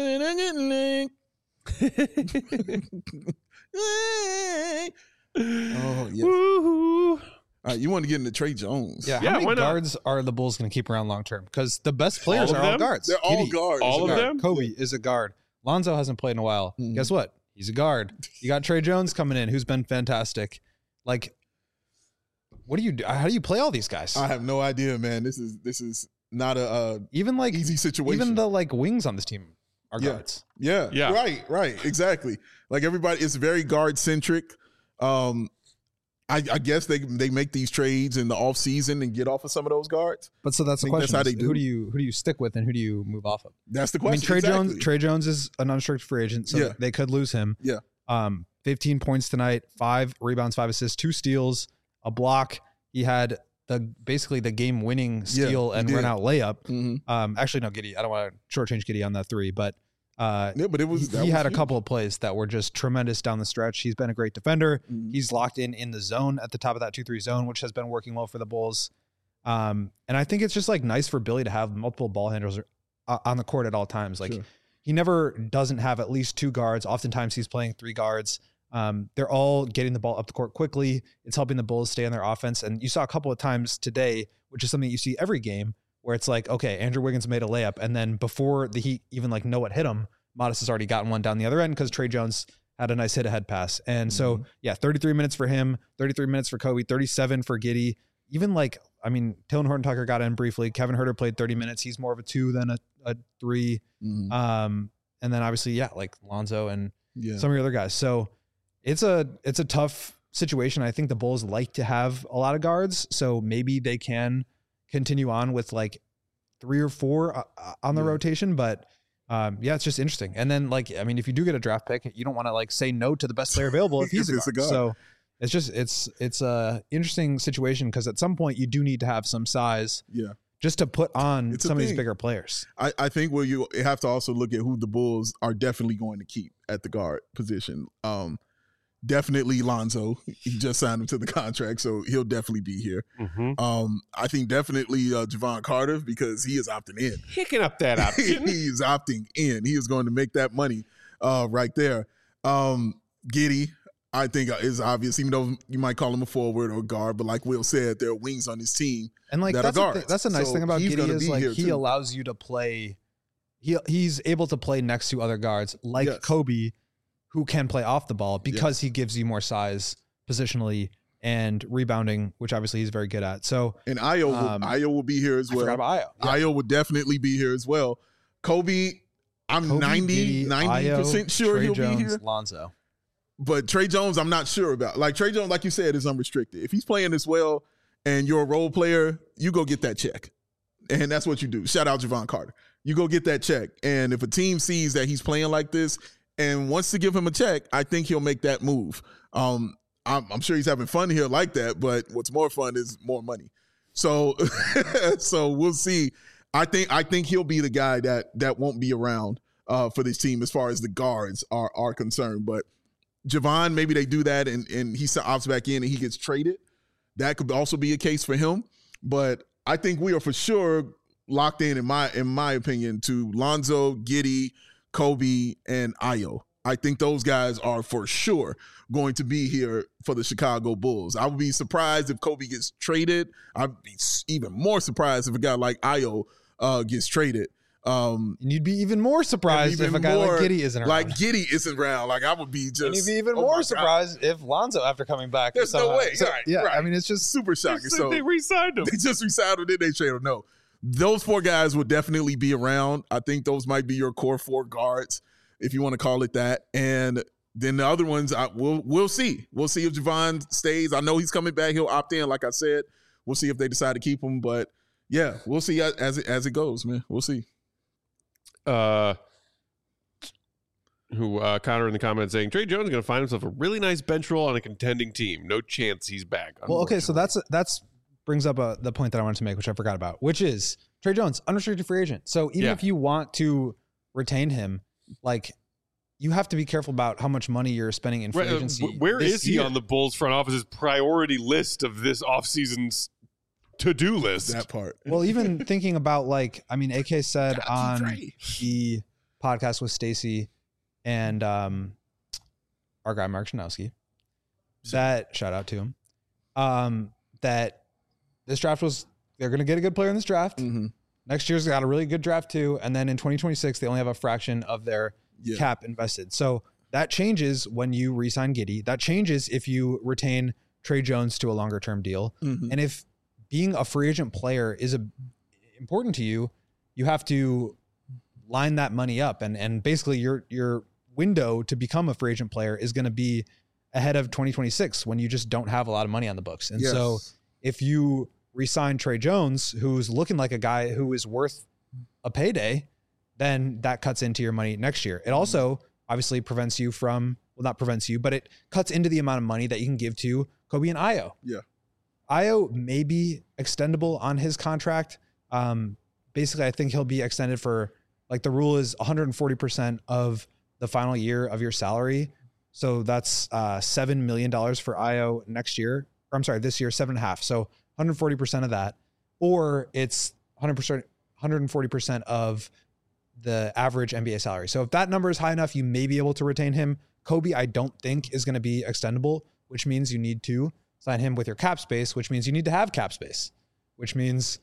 Oh, yes. Woo-hoo. All right, you want to get into Trey Jones. Yeah, how yeah, many guards are the Bulls going to keep around long term? Because the best players are them? all guards. They're all Giddy, guards. All of guard. them? Kobe is a guard. Lonzo hasn't played in a while. Mm-hmm. Guess what? He's a guard. You got Trey Jones coming in, who's been fantastic. Like, what do you do? How do you play all these guys? I have no idea, man. This is this is not a uh, even like easy situation. Even the like wings on this team are yeah. guards. Yeah, yeah, right, right, exactly. Like everybody, it's very guard centric. Um, I, I guess they they make these trades in the off season and get off of some of those guards. But so that's the question: that's how they who do. do you who do you stick with and who do you move off of? That's the question. I mean, Trey exactly. Jones. Trey Jones is an unrestricted free agent, so yeah. they could lose him. Yeah. Um, fifteen points tonight, five rebounds, five assists, two steals, a block. He had the basically the game winning steal yeah, and did. run out layup. Mm-hmm. Um, actually, no, Giddy. I don't want to shortchange Giddy on that three, but. Uh, yeah, but it was. He, he was had a huge. couple of plays that were just tremendous down the stretch. He's been a great defender. Mm-hmm. He's locked in in the zone at the top of that two three zone, which has been working well for the Bulls. Um, and I think it's just like nice for Billy to have multiple ball handlers uh, on the court at all times. Like sure. he never doesn't have at least two guards. Oftentimes he's playing three guards. Um, they're all getting the ball up the court quickly. It's helping the Bulls stay on their offense. And you saw a couple of times today, which is something you see every game, where it's like, okay, Andrew Wiggins made a layup, and then before the Heat even like know what hit him, Modest has already gotten one down the other end because Trey Jones had a nice hit ahead pass. And so, mm-hmm. yeah, thirty-three minutes for him, thirty-three minutes for Kobe, thirty-seven for Giddy. Even like, I mean, Talen Horton-Tucker got in briefly. Kevin Huerter played thirty minutes. He's more of a two than a, a three. Mm-hmm. Um, and then obviously, yeah, like Lonzo and yeah. some of your other guys. So it's a it's a tough situation. I think the Bulls like to have a lot of guards, so maybe they can continue on with like three or four uh, on the yeah. rotation, but Um, yeah, it's just interesting. And then, like, I mean, if you do get a draft pick, you don't want to like say no to the best player available if he's a guard. a guard. So it's just it's it's a interesting situation because at some point you do need to have some size, yeah, just to put on it's some of these bigger players. I, I think where you have to also look at who the Bulls are definitely going to keep at the guard position. Um, definitely Lonzo. He just signed him to the contract, so he'll definitely be here. Mm-hmm. Um, I think definitely uh, Javon Carter because he is opting in. Picking up that option. He is opting in. He is going to make that money uh, right there. Um, Giddy, I think is obvious, even though you might call him a forward or a guard, but like Will said, there are wings on his team. And like that that's are a, th- guards. that's a nice So thing about he's Giddy gonna is be like here he too. allows you to play. He he's able to play next to other guards like Yes. Kobe, who can play off the ball because he gives you more size positionally and rebounding, which obviously he's very good at. So And Ayo, Um, will, Ayo will be here as I well. forgot about Ayo. Yeah. Ayo would definitely be here as well. Kobe, I'm Kobe, ninety, Giddy, ninety percent Ayo, sure Trey he'll Jones, be here. Lonzo. But Trey Jones, I'm not sure about. Like Trey Jones, like you said, is unrestricted. If he's playing this well and you're a role player, you go get that check. And that's what you do. Shout out Javon Carter. You go get that check. And if a team sees that he's playing like this and wants to give him a check, I think he'll make that move. Um, I'm, I'm sure he's having fun here like that, but what's more fun is more money. So, so we'll see. I think I think he'll be the guy that that won't be around uh, for this team as far as the guards are are concerned. But Javon, maybe they do that and and he opts back in and he gets traded. That could also be a case for him. But I think we are for sure locked in, in my in my opinion, to Lonzo, Giddy, Kobe, and Ayo. I think those guys are for sure going to be here for the Chicago Bulls. I would be surprised if Kobe gets traded. I'd be even more surprised if a guy like Ayo uh, gets traded. Um, And you'd be even more surprised even if a guy more, like Giddy isn't around. Like Giddy isn't around. Like I would be just. And you'd be even oh my more God. surprised if Lonzo, after coming back, There's no somehow- way. So, Right, yeah, right. I mean, it's just Super shocking. So they re-signed him. They just re-signed him, then they trade him. No. Those four guys will definitely be around. I think those might be your core four guards, if you want to call it that. And then the other ones, I, we'll we'll see. We'll see if Javon stays. I know he's coming back. He'll opt in, like I said. We'll see if they decide to keep him. But, yeah, we'll see as it, as it goes, man. We'll see. Uh, who uh, Connor in the comments saying Trey Jones is going to find himself a really nice bench role on a contending team. No chance he's back. Well, okay, so that's that's brings up a, the point that I wanted to make, which I forgot about, which is Trey Jones, unrestricted free agent. So even Yeah. if you want to retain him, like you have to be careful about how much money you're spending in free Right, uh, agency. wh- where this is he year. on the Bulls front office's priority list of this offseason's to-do list? That part. Well, even thinking about like, I mean, A K said Got you, on Trey. the podcast with Stacy and um, our guy Mark Shanowski, that shout out to him, um, that this draft was they're going to get a good player in this draft. Mm-hmm. Next year's got a really good draft too, and then in twenty twenty-six they only have a fraction of their Yeah. cap invested. So that changes when you re-sign Giddey. That changes if you retain Trey Jones to a longer term deal, Mm-hmm. and if being a free agent player is a, important to you, you have to line that money up. And and basically your your window to become a free agent player is going to be ahead of twenty twenty-six when you just don't have a lot of money on the books. And Yes. so if you re-sign Trey Jones, who's looking like a guy who is worth a payday, then that cuts into your money next year. It also obviously prevents you from, well, not prevents you, but it cuts into the amount of money that you can give to Kobe and Ayo. Yeah. Ayo may be extendable on his contract. Um, basically, I think he'll be extended for, like, the rule is one hundred forty percent of the final year of your salary. So that's uh, seven million dollars for Ayo next year. Or I'm sorry, this year, seven and a half. So one hundred forty percent of that, or it's one hundred percent, one hundred forty percent of the average N B A salary. So if that number is high enough, you may be able to retain him. Kobe, I don't think is going to be extendable, which means you need to sign him with your cap space, which means you need to have cap space, which means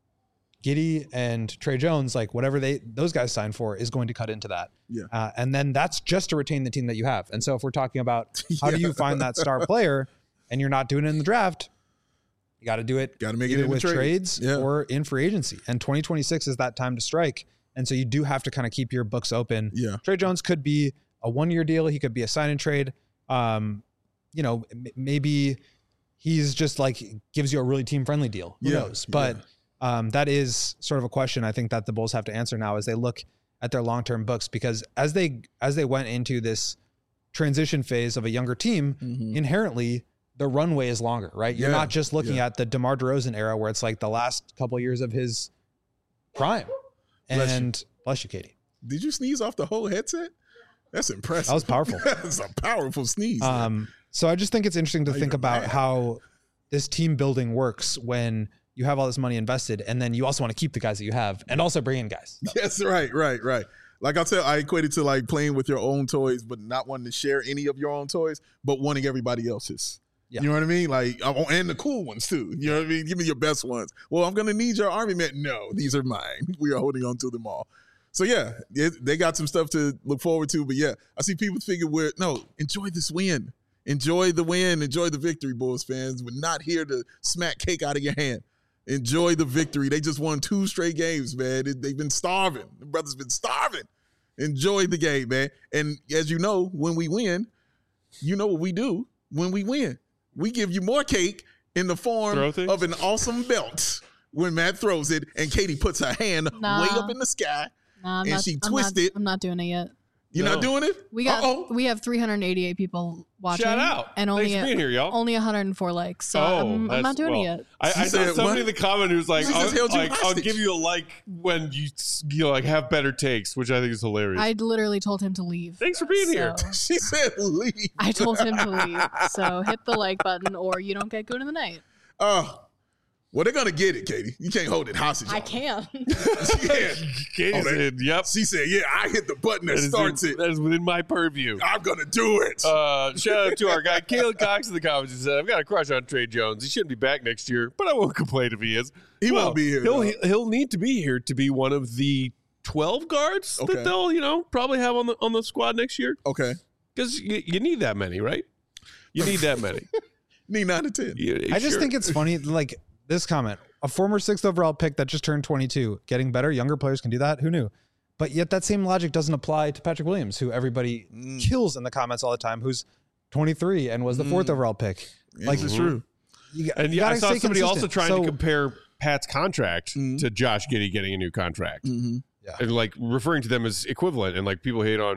Giddey and Trey Jones, like whatever they those guys sign for, is going to cut into that. Yeah. Uh, and then that's just to retain the team that you have. And so if we're talking about how do Yeah. you find that star player and you're not doing it in the draft, you got to do it Got to make it either in the with trade. trades Yeah. or in free agency. And twenty twenty-six is that time to strike. And so you do have to kind of keep your books open. Yeah. Trey Jones could be a one-year deal. He could be a sign and trade. Um, you know, m- maybe he's just like gives you a really team-friendly deal. Who Yeah. knows? But um, that is sort of a question I think that the Bulls have to answer now as they look at their long-term books, because as they as they went into this transition phase of a younger team, Mhm. inherently the runway is longer, right? You're Yeah. not just looking Yeah. at the DeMar DeRozan era where it's like the last couple of years of his prime. Bless you. And bless you, Katie. Did you sneeze off the whole headset? That's impressive. That was powerful. That's a powerful sneeze. man. Um, so I just think it's interesting to Now think you're about mad. how this team building works when you have all this money invested, and then you also want to keep the guys that you have and also bring in guys. Yes, right, right, right. Like I said, I equate it to like playing with your own toys, but not wanting to share any of your own toys, but wanting everybody else's. Yeah. You know what I mean? Like, I want- and the cool ones too. You know what I mean? Give me your best ones. Well, I'm gonna need your army man. No, these are mine. We are holding on to them all. So yeah, it, they got some stuff to look forward to. But yeah, I see people figure we're no, enjoy this win. Enjoy the win. Enjoy the victory, Bulls fans. We're not here to smack cake out of your hand. Enjoy the victory. They just won two straight games, man. It- they've been starving. The brothers been starving. Enjoy the game, man. And as you know, when we win, you know what we do when we win. We give you more cake in the form Throw things? of an awesome belt when Matt throws it and Katie puts her hand Nah. way up in the sky. Nah, I'm And not, she I'm not- twisted. I'm not doing it yet. You're No. not doing it? We got Uh-oh. we have three hundred eighty-eight people watching. Shout out. And only Thanks for being here, y'all. only one hundred four likes. So Oh, I'm, I'm that's- not doing well, it yet. I, She I saw said, somebody what? in the comment who's like, She just I'll, held you like I'll hostage. give you a like when you you know, like have better takes, which I think is hilarious. I literally told him to leave. Thanks for being here. So- She said leave. I told him to leave. So hit the like button or you don't get good in the night. Oh, well, they're going to get it, Katie. You can't hold it hostage. I on them. can. Yeah. Katie Oh, they- said, "Yep, She said, yeah, I hit the button that that is, starts in- it. that is within my purview." I'm going to do it. Uh, shout out to our guy Caleb Cox in the comments. He said, "I've got a crush on Trey Jones. He shouldn't be back next year, but I won't complain if he is. He Well, won't be here, He'll though. he'll need to be here to be one of the twelve guards Okay. that they'll you know probably have on the on the squad next year Okay. because you, you need that many, right? You need that many. Need nine to ten. You- I just sure. think it's funny, like this comment, a former sixth overall pick that just turned twenty-two, getting better, younger players can do that. Who knew? But yet that same logic doesn't apply to Patrick Williams, who everybody Mm. kills in the comments all the time, who's twenty-three and was the fourth Mm. overall pick. Like, This is true. You, got- And you yeah, I gotta saw stay somebody also consistent. trying So- to compare Pat's contract Mhm. to Josh Giddey getting a new contract, Mm-hmm. and like referring to them as equivalent. And like people hate on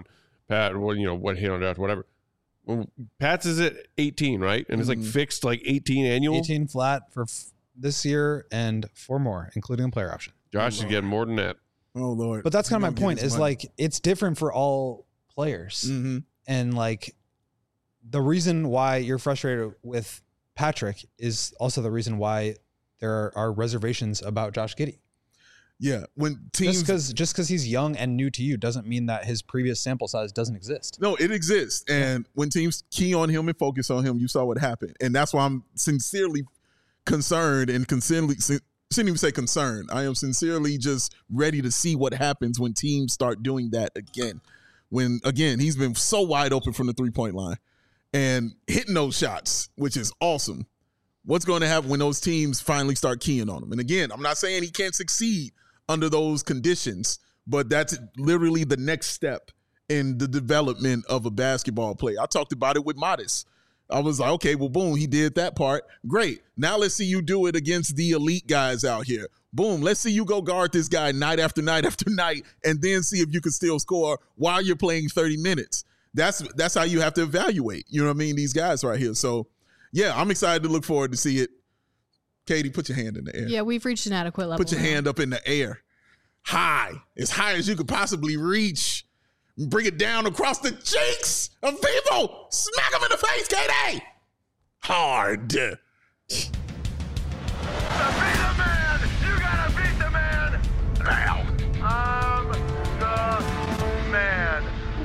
Pat, well, you know, what hit on draft, whatever. Well, Pat's is at eighteen, right? And it's like Mhm. fixed like eighteen annual. eighteen flat for f- this year and four more, including a player option. Josh is getting more than that. Oh Lord. But that's kind He of my gonna get point. his Is money. like it's different for all players, Mhm. and like the reason why you're frustrated with Patrick is also the reason why there are, are reservations about Josh Giddey. Yeah, when teams Just because just because he's young and new to you doesn't mean that his previous sample size doesn't exist. No, it exists. And when teams key on him and focus on him, you saw what happened. And that's why I'm sincerely concerned and sincerely, sin- shouldn't even say concerned. I am sincerely just ready to see what happens when teams start doing that again. When, again, he's been so wide open from the three-point line and hitting those shots, which is awesome. What's going to happen when those teams finally start keying on him? And again, I'm not saying he can't succeed under those conditions, but that's literally the next step in the development of a basketball player. I talked about it with Modest. I was like, okay, well, boom, he did that part. Great. Now let's see you do it against the elite guys out here. Boom, let's see you go guard this guy night after night after night and then see if you can still score while you're playing thirty minutes. That's that's how you have to evaluate, you know what I mean, these guys right here. So, yeah, I'm excited to look forward to see it. Katie, put your hand in the air. Yeah, we've reached an adequate level. Put your now. hand up in the air. High. As high as you could possibly reach. Bring it down across the cheeks of people. Smack them in the face, Katie. Hard. To be the man, you gotta beat the man now. I'm the man.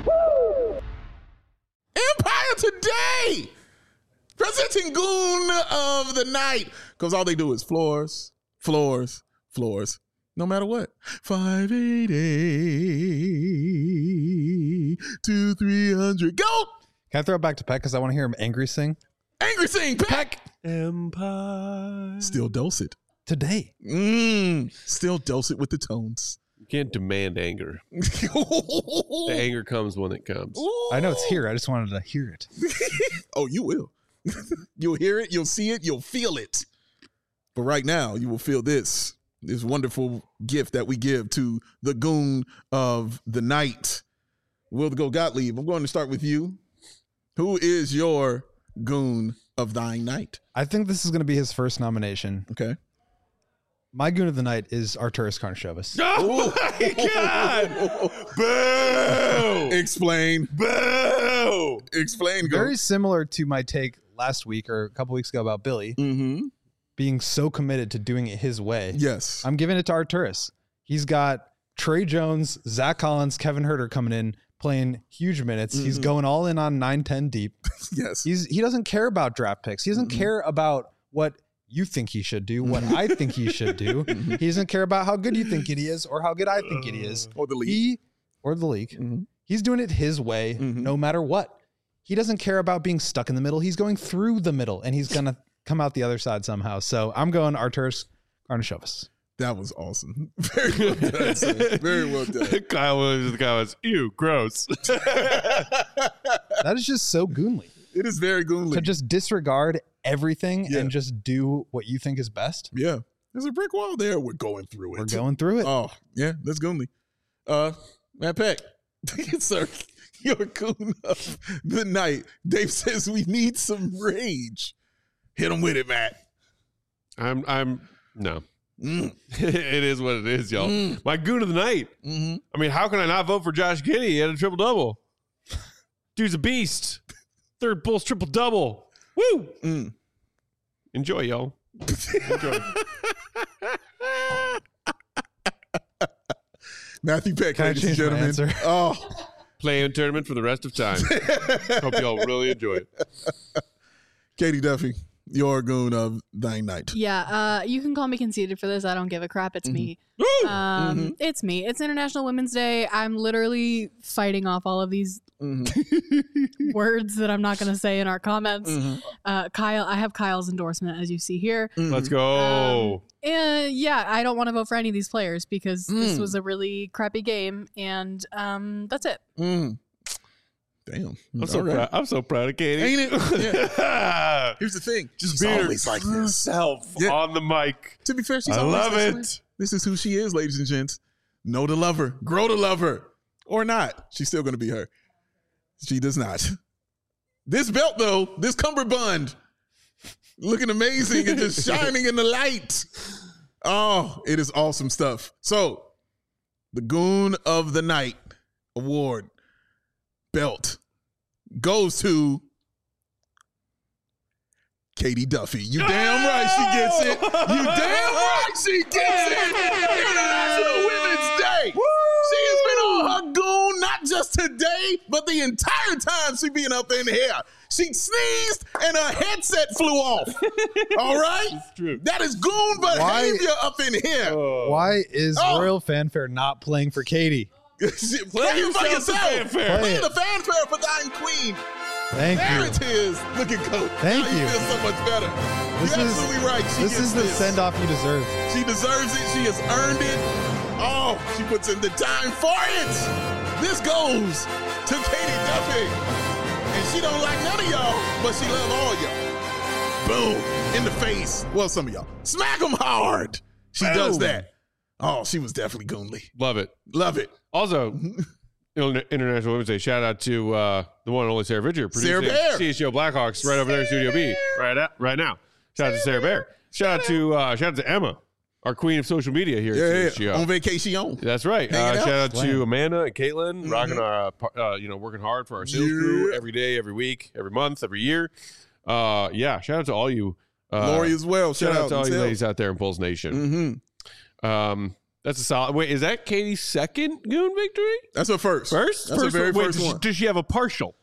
Empire Today. Presenting Goon of the Night. Because all they do is floors, floors, floors. No matter what. five eighty to three hundred. Go! Can I throw it back to Peck because I want to hear him angry sing Angry Sing, Peck. Empire. Still dulcet. today? Mm, still dulcet with the tones. You can't demand anger. The anger comes when it comes. I know it's here. I just wanted to hear it. Oh, you will. You'll hear it. You'll see it. You'll feel it. But right now, you will feel this. This wonderful gift that we give to the goon of the night. Will Go Gottlieb, I'm going to start with you. Who is your goon of thine night? I think this is going to be his first nomination. Okay. My goon of the night is Arturas Karnisovas. Oh my God! Boo! Explain. Boo! Explain. Go. Very similar to my take last week or a couple weeks ago about Billy Mm-hmm. being so committed to doing it his way. Yes. I'm giving it to Arturas. He's got Trey Jones, Zach Collins, Kevin Herter coming in, playing huge minutes. He's Mhm. going all in on nine ten deep. yes. He's he doesn't care about draft picks. He doesn't Mhm. care about what you think he should do, what I think he should do. Mhm. He doesn't care about how good you think he is or how good I think he is. Or the league. He or the league. Mhm. He's doing it his way, Mhm. no matter what. He doesn't care about being stuck in the middle. He's going through the middle, and he's gonna come out the other side somehow. So I'm going Arturas Karnisovas. That was awesome. Very well done, sir. Very well done. Kyle Williams, the guy was, ew, gross. That is just so goonly It is very goonly. to just disregard everything Yeah. and just do what you think is best. Yeah. There's a brick wall there. We're going through it. We're going through it. Oh, yeah, that's goonly. Uh, Matt Peck. Sir, your goon of the night. Dave says we need some rage. Hit him with it, Matt. I'm, I'm, no. Mm, It is what it is, y'all. Mm. My goon of the night. mm-hmm. I mean, how can I not vote for Josh Giddey? He had a triple double. Dude's a beast. Third Bulls triple double. Woo! Mm. Enjoy, y'all. Enjoy. Matthew Peck, Can I ladies and change my gentlemen. answer? Oh, Play-in tournament for the rest of time. Hope y'all really enjoy it. Katie Duffy, your goon of thine night. Yeah, uh, you can call me conceited for this. I don't give a crap. It's me. Woo! Um, Mhm. It's me. It's International Women's Day. I'm literally fighting off all of these Mm-hmm. words that I'm not going to say in our comments. Mm-hmm. Uh, Kyle, I have Kyle's endorsement, as you see here. Let's go. And yeah, I don't want to vote for any of these players because this Mm. was a really crappy game, and um, that's it. Mm. Damn. I'm so All right. proud. I'm so proud of Katie. Ain't it? Yeah. Here's the thing. Just She's being her always like true this. self Yeah. on the mic. To be fair, she's I always love this it. way. This is who she is, ladies and gents. Know to love her. Grow to love her. Or not. She's still going to be her. She does not. This belt, though, this cummerbund, looking amazing and just shining in the light. Oh, it is awesome stuff. So, the Goon of the Night award belt goes to Katie Duffy. You damn right she gets it. You damn right she gets it. International Women's Day. She has been on her goon, not just today, but the entire time she been up in here. She sneezed and her headset flew off. All right? It's true. That is goon behavior Why- up in here. Oh. Why is Oh. Royal Fanfare not playing for Katie? Play it for yourself yourself. the fanfare. Play Play the fanfare for thine queen. Thank There you. it is. Look at Coach. Thank now you. feel so much better. This You're is- absolutely right. She This gets is the this. send off you deserve. She deserves it. She has earned it. Oh, she puts in the time for it. This goes to Katie Duffy. And she don't like none of y'all, but she love all y'all. Boom. In the face. Well, some of y'all. Smack them hard. She Boom. does that. Oh, she was definitely goonly. Love it. Love it. Also, Inter- International Women's Day. Shout out to uh, the one and only Sarah Vidger, Sarah producing Bear. C H G O Blackhawks right over there in Studio B, right at, right now. Shout out to Sarah Bear. Shout out to uh, shout out to Emma, our queen of social media here Yeah, at yeah, C H G O. on vacation. That's right. Uh, Hanging out. shout out to Slam. Amanda and Caitlin, rocking our, uh, par- uh, you know, working hard for our sales crew Yeah. every day, every week, every month, every year. Uh, yeah, shout out to all you. Uh, Lori as well. shout, out to all you Tell. ladies out there in Bulls Nation. Mm-hmm. Um, that's a solid. Wait, is that Katie's second Goon victory? That's her first. First, That's first her very Wait, first does she, one. does she have a partial?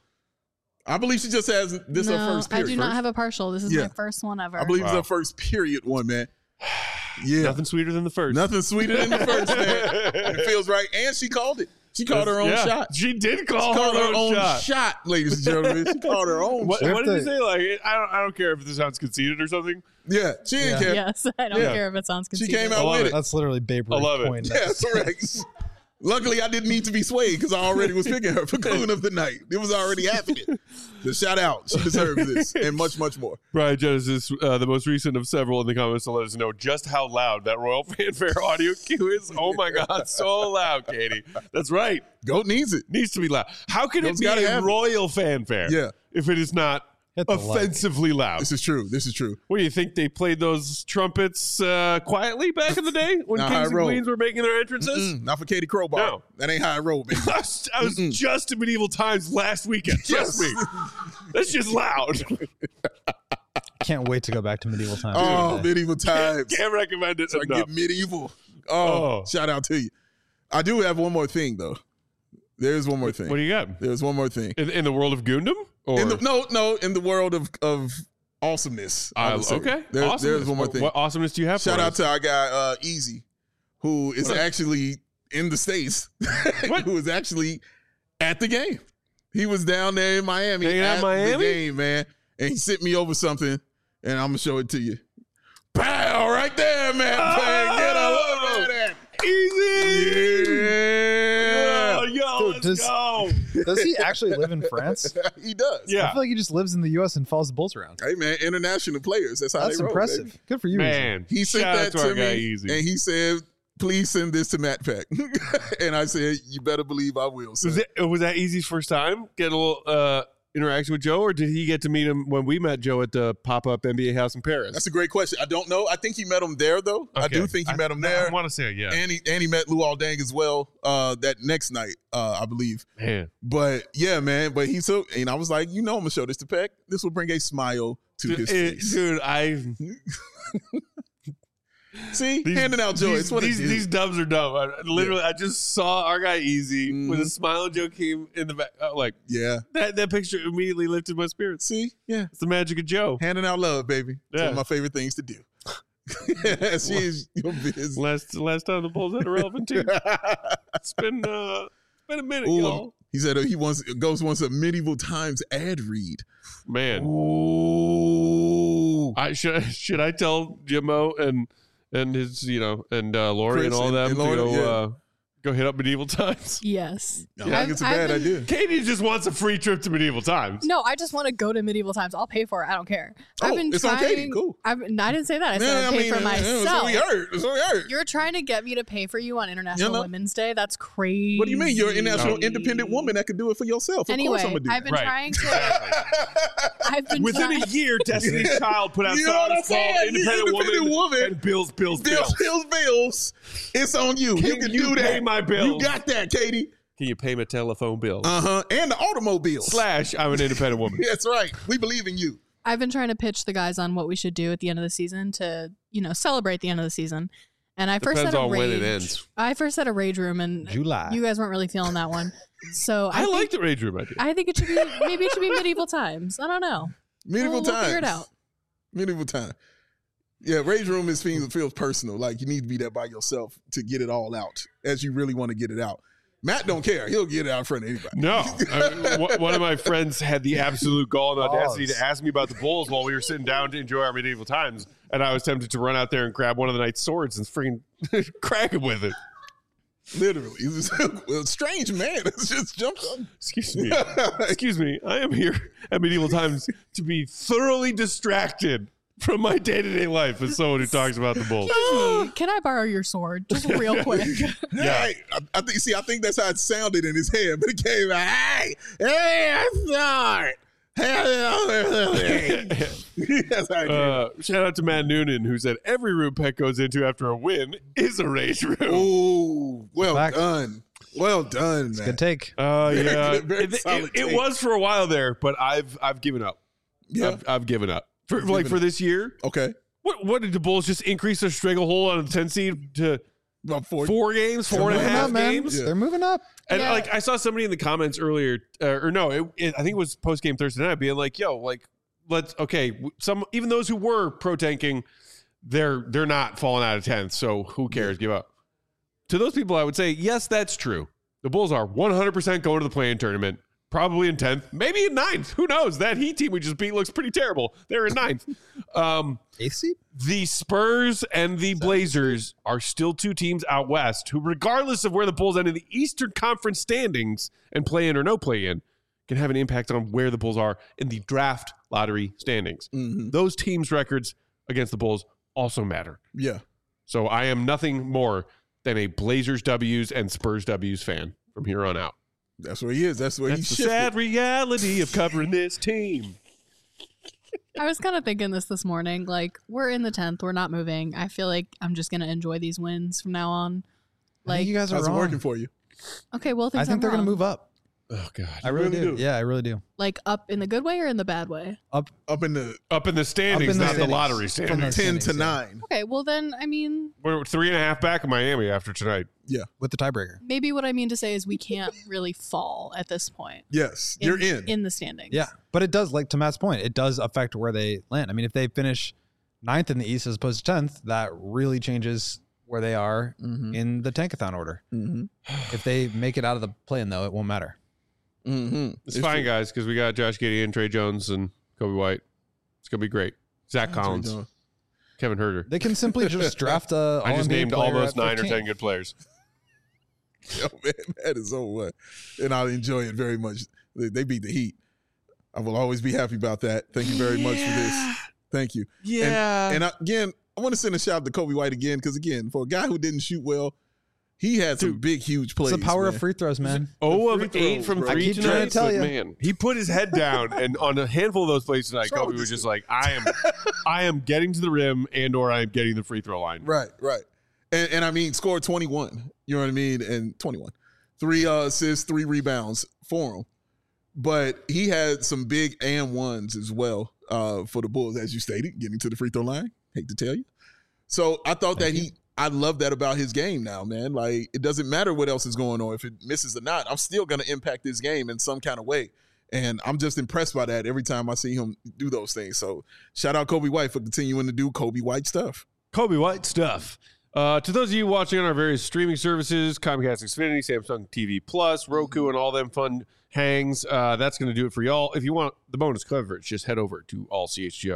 I believe she just has this no, her first I period. do not First? have a partial. This is Yeah. my first one ever. I believe it's Wow. her first period one, man. Yeah. Nothing sweeter than the first. Nothing sweeter than the first, man. And it feels right. And she called it. She called her own Yeah, shot. She She did call, called her, own, shot. shot, ladies and gentlemen. She called her own What, shot. what did you to- say? Like, I don't, I don't care if this sounds conceited or something. Yeah, she didn't Yeah. care. Yes, I don't Yeah. care if it sounds She conceited. came I out love with it. it. That's literally Babe I Ruth love it. point. Yeah, correct. Luckily, I didn't need to be swayed because I already was picking her for Goon of the Night. It was already happening. So shout out. She deserves this and much, much more. Brian Genesis, uh, the most recent of several in the comments to let us know just how loud that Royal Fanfare audio cue is. Oh my God, so loud, Katie. That's right. Goat needs it. Needs to be loud. How can Goat's it be gotta a have it. Royal Fanfare Yeah. if it is not Hit the like. offensively loud? This is true. This is true. What do you think? They played those trumpets uh, quietly back in the day when Nah, kings I and roll. queens were making their entrances? Mm, not for Katie Crowbar. No. That ain't how I roll, baby. I was, I was Mm-mm. just in medieval times last weekend. Trust Yes. me. That's just loud. Can't wait to go back to medieval times. Oh, medieval times. Can't recommend it So I enough. get medieval. Oh, Oh. shout out to you. I do have one more thing, though. There's one more thing. What do you got? There's one more thing. In, in the world of Gundam? Or In the, no, no, in the world of, of awesomeness. I Uh, would say. okay. There- Awesomeness. There's one more What- thing. What awesomeness do you have Shout for out us? to our guy, uh, Easy, who is What? actually in the States, What? who was actually at the game. He was down there in Miami Hanging out at in Miami? the game, man. And he sent me over something, and I'm going to show it to you. Pow, right there, man. Oh! Get a look at that. Easy. Yeah. Oh, yo, Dude, let's does- go. Does he actually live in France? He does. Yeah. I feel like he just lives in the U S and follows the Bulls around. Hey, man, international players. That's how That's they roll, impressive. baby. Good for you, Easy. Man, He sent shout that out to, to our guy me, Easy. and he said, please send this to Matt Peck. And I said, you better believe I will. was, son. it, was that Easy's first time getting a little uh, interaction with Joe, or did he get to meet him when we met Joe at the pop-up N B A house in Paris? That's a great question. I don't know. I think he met him there, though. I do Okay. think he I- met him I there. want to say it, yeah. And he, and he met Luol Deng as well uh, that next night, uh, I believe. Man. But yeah, man. But he took, and I was like, you know, I'm going to show this to Peck. This will bring a smile to Dude, his it- face. dude, I See? these, Handing out joy. These, It's what these, it is. these dubs are dumb. I, literally, I just saw our guy Easy with a Mhm. smile and Joe came in the back. Uh, like Yeah. that, that picture immediately lifted my spirits. See? Yeah. It's the magic of Joe. Handing out love, baby. It's one Yeah. of my favorite things to do. She is your business. Last last time the Bulls had a relevant team. It's been uh, it's been a minute, Ooh, y'all. he said uh, he wants Ghost wants a medieval times ad read. Man, Ooh. I should should I tell Jimmo and and his you know and uh, Lori Chris and all and- them and to Lori, go yeah. uh, Go hit up Medieval Times. Yes. I don't think it's a bad I've been- idea. Katie just wants a free trip to Medieval Times. No, I just want to go to Medieval Times. I'll pay for it. I don't care. I've Oh, been it's on trying, Katie. Cool. I've, no, I didn't say that. I said Yeah, I'll I pay mean, for uh, That's myself. what we heard. That's what we heard. You're trying to get me to pay for you on International You know? Women's Day. That's crazy. What do you mean? You're an international No. independent woman that can do it for yourself. Of Anyway, course I'm gonna do I've that. been Right. trying to. I've been Within trying. a year, Destiny's Child put out You know what I'm songs called saying? Independent, Independent Woman, Woman. and Bills, Bills, Bills, Bills. bills, bills. It's on you. Can you can you do pay that. my bills? You got that, Katie. Can you pay my telephone bill? Uh huh. And the automobiles. Slash, I'm an independent woman. That's right. We believe in you. I've been trying to pitch the guys on what we should do at the end of the season to, you know, celebrate the end of the season. And I first Depends said a on rage. when it ends. I first said a rage room, and July. you guys weren't really feeling that one. So I, I think, like the Rage Room idea. I think it should be maybe it should be medieval times. I don't know. Medieval We'll- we'll times. figure it out. Medieval time. Yeah, rage room is feels, feels personal. Like you need to be there by yourself to get it all out as you really want to get it out. Matt don't care. He'll get it out in front of anybody. No. I mean, one- one of my friends had the absolute gall and audacity Balls. to ask me about the Bulls while we were sitting down to enjoy our medieval times. And I was tempted to run out there and grab one of the knight's swords and freaking crack him with it. Literally. He's a strange man. It's just jumped on. Excuse me. Excuse me. I am here at medieval times to be thoroughly distracted from my day-to-day life as someone who talks about the Bulls. Excuse me, can I borrow your sword just real quick? Yeah. Hey, I, I think. See, I think that's how it sounded in his head, but it came out. Hey, hey, I'm sorry. Hey, that's how it came out. Uh, shout out to Matt Noonan, who said every room Peck goes into after a win is a rage room. Oh, well Fact. done. Well done, man. Good take. Uh, Very yeah, good, very it, it- solid it take. was for a while there, but I've I've given up. Yeah. I've, I've given up for You've like given for up. this year. Okay. What what did the Bulls just increase their stranglehold on the ten seed to About four. four games, four and a Moving half up, man. games? Yeah. They're moving up. And Yeah. like I saw somebody in the comments earlier, uh, or no, it, it, I think it was post game Thursday night, being like, "Yo, like let's okay." w- Some even those who were pro tanking, they're they're not falling out of tenth, so who cares? Give up. To those people, I would say, yes, that's true. The Bulls are one hundred percent going to the play-in tournament, probably in tenth, maybe in ninth. Who knows? That Heat team we just beat looks pretty terrible. They're in ninth. Um, Eighth seed? the Spurs and the Blazers are still two teams out west who, regardless of where the Bulls end in the Eastern Conference standings and play in or no play in, can have an impact on where the Bulls are in the draft lottery standings. Mhm. Those teams' records against the Bulls also matter. Yeah. So I am nothing more than a Blazers W's and Spurs W's fan from here on out. That's where he is. That's where That's he's the sad reality of covering this team. I was kind of thinking this this morning. Like, we're in the tenth. We're not moving. I feel like I'm just going to enjoy these wins from now on. I Like, think you guys are How's it wrong. working for you? okay, well, I things think I'm they're going wrong. to move up. Oh, God. I really, really do. do? Yeah, I really do. Like, up in the good way or in the bad way? Up Up in the Up in the standings, Up in the not the standings. lottery From standings. the- ten to standings, yeah. nine. Okay, well, then, I mean, We're three and a half back in Miami after tonight. with the tiebreaker. maybe what I mean to say is we can't really fall at this point. Yes, you're in. In the standings. Yeah, but it does, like to Matt's point, it does affect where they land. I mean, if they finish ninth in the East as opposed to tenth, that really changes where they are Mm-hmm. in the tankathon order. Mm-hmm. If they make it out of the play-in, though, it won't matter. Mm-hmm. It's, fine, guys, because we got Josh Gideon, Trey Jones, and Kobe White. It's going to be great. Zach Collins, Kevin Herter. They can simply just draft a. I just All-N B A named all player those at nine or fifteen. ten good players. Yo, man, that is so what, and I enjoy it very much. They, they beat the Heat. I will always be happy about that. Thank you very much for this. Thank you. Yeah. And I, again, I want to send a shout out to Kobe White again because again, for a guy who didn't shoot well, he had some Dude, big, huge plays. It's the power man. of free throws, man. oh free of eight throws, from bro. I three keep tonight. trying to tell but you. Man, he put his head down, and on a handful of those plays tonight, What's wrong Kobe with was this just like, "I am, I am getting to the rim, and or I am getting the free throw line." Right, right. And, and I mean, scored twenty-one. You know what I mean? And twenty-one. Three uh, assists, three rebounds for him. But he had some big and ones as well uh, for the Bulls, as you stated, getting to the free throw line. Hate to tell you. So I thought Thank that you. he, I love that about his game now, man. Like, it doesn't matter what else is going on. If it misses or not, I'm still going to impact this game in some kind of way. And I'm just impressed by that every time I see him do those things. So shout out Kobe White for continuing to do Kobe White stuff. Kobe White stuff. Uh, to those of you watching on our various streaming services, Comcast Xfinity, Samsung T V Plus, Roku, and all them fun hangs, uh, that's going to do it for y'all. If you want the bonus coverage, just head over to all C H G O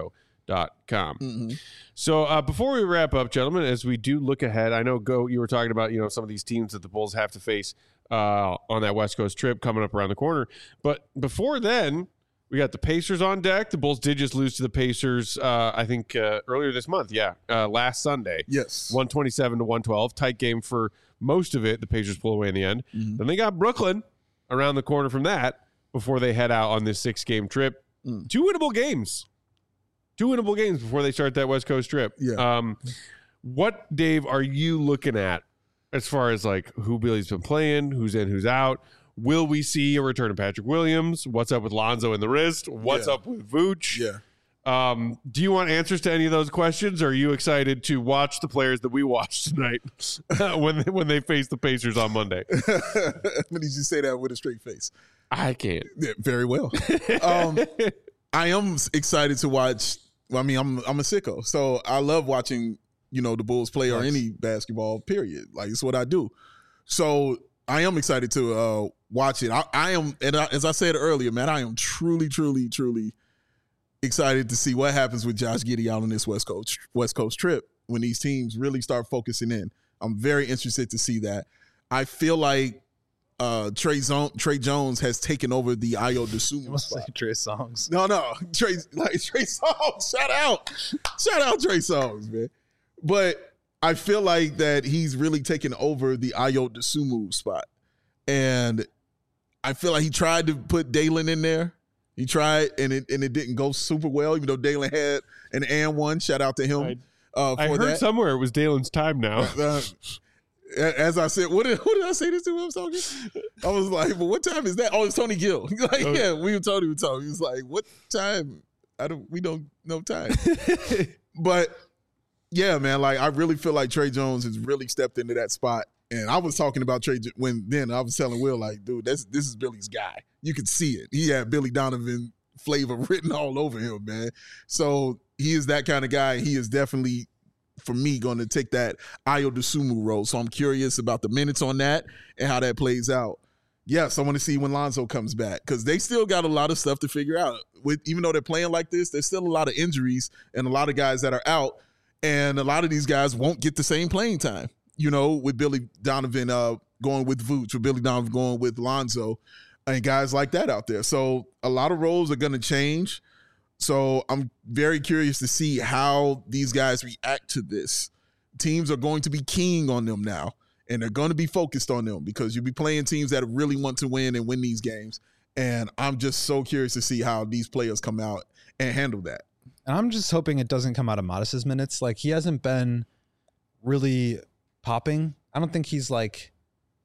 dot com. Mm-hmm. So uh, before we wrap up, gentlemen, as we do look ahead, I know Go, you were talking about, you know, some of these teams that the Bulls have to face uh, on that West Coast trip coming up around the corner. But before then, we got the Pacers on deck. The Bulls did just lose to the Pacers, uh, I think, uh, earlier this month. Yeah, uh, last Sunday. Yes. one twenty-seven to one twelve. Tight game for most of it. The Pacers pull away in the end. Mm-hmm. Then they got Brooklyn around the corner from that before they head out on this six-game trip. Mm. Two winnable games. Two winnable games before they start that West Coast trip. Yeah. Um, what, Dave, are you looking at as far as like who Billy's been playing, who's in, who's out? Will we see a return of Patrick Williams? What's up with Lonzo in the wrist? What's Yeah. up with Vooch? Yeah. Um, do you want answers to any of those questions? Or are you excited to watch the players that we watched tonight when they, when they face the Pacers on Monday? When did you say that with a straight face? I can't. Yeah, very well. um, I am excited to watch. Well, I mean, I'm I'm a sicko, so I love watching, you know, the Bulls play or Nice. any basketball. Period. Like it's what I do. So I am excited to uh, watch it. I, I am, and I, as I said earlier, man, I am truly, truly, truly excited to see what happens with Josh Giddey out on this West Coast West Coast trip when these teams really start focusing in. I'm very interested to see that. I feel like uh, Trey, Zone, Trey Jones has taken over the Ayo Dosunmu Must say spot. Trey Songz. No, no, Trey, like Trey Songz. Shout out, shout out Trey Songz, man. But I feel like that he's really taken over the Ayo Dosunmu spot, and I feel like he tried to put Dalen in there. He tried, and it and it didn't go super well. Even though Dalen had an and one. Shout out to him I- uh, for I heard that. somewhere it was Dalen's time now. Uh, as I said, what did, what did I say this to? I was talking. I was like, "But what time is that?" Oh, it's Tony Gill. like, Oh. yeah, we were Tony. We talking. He was like, "What time?" I don't. We don't know time. But yeah, man. Like, I really feel like Trey Jones has really stepped into that spot. And I was talking about Trey when then I was telling Will, like, dude, that's this is Billy's guy. You could see it. He had Billy Donovan flavor written all over him, man. So he is that kind of guy. He is definitely, for me, going to take that Ayo Dosunmu role. So I'm curious about the minutes on that and how that plays out. Yes, I want to see when Lonzo comes back because they still got a lot of stuff to figure out. With even though they're playing like this, there's still a lot of injuries and a lot of guys that are out, and a lot of these guys won't get the same playing time. You know, with Billy Donovan uh, going with Vooch, with Billy Donovan going with Lonzo, and guys like that out there. So a lot of roles are going to change. So I'm very curious to see how these guys react to this. Teams are going to be keying on them now, and they're going to be focused on them because you'll be playing teams that really want to win and win these games. And I'm just so curious to see how these players come out and handle that. And I'm just hoping it doesn't come out of Modest's minutes. Like, he hasn't been really popping. I don't think he's like,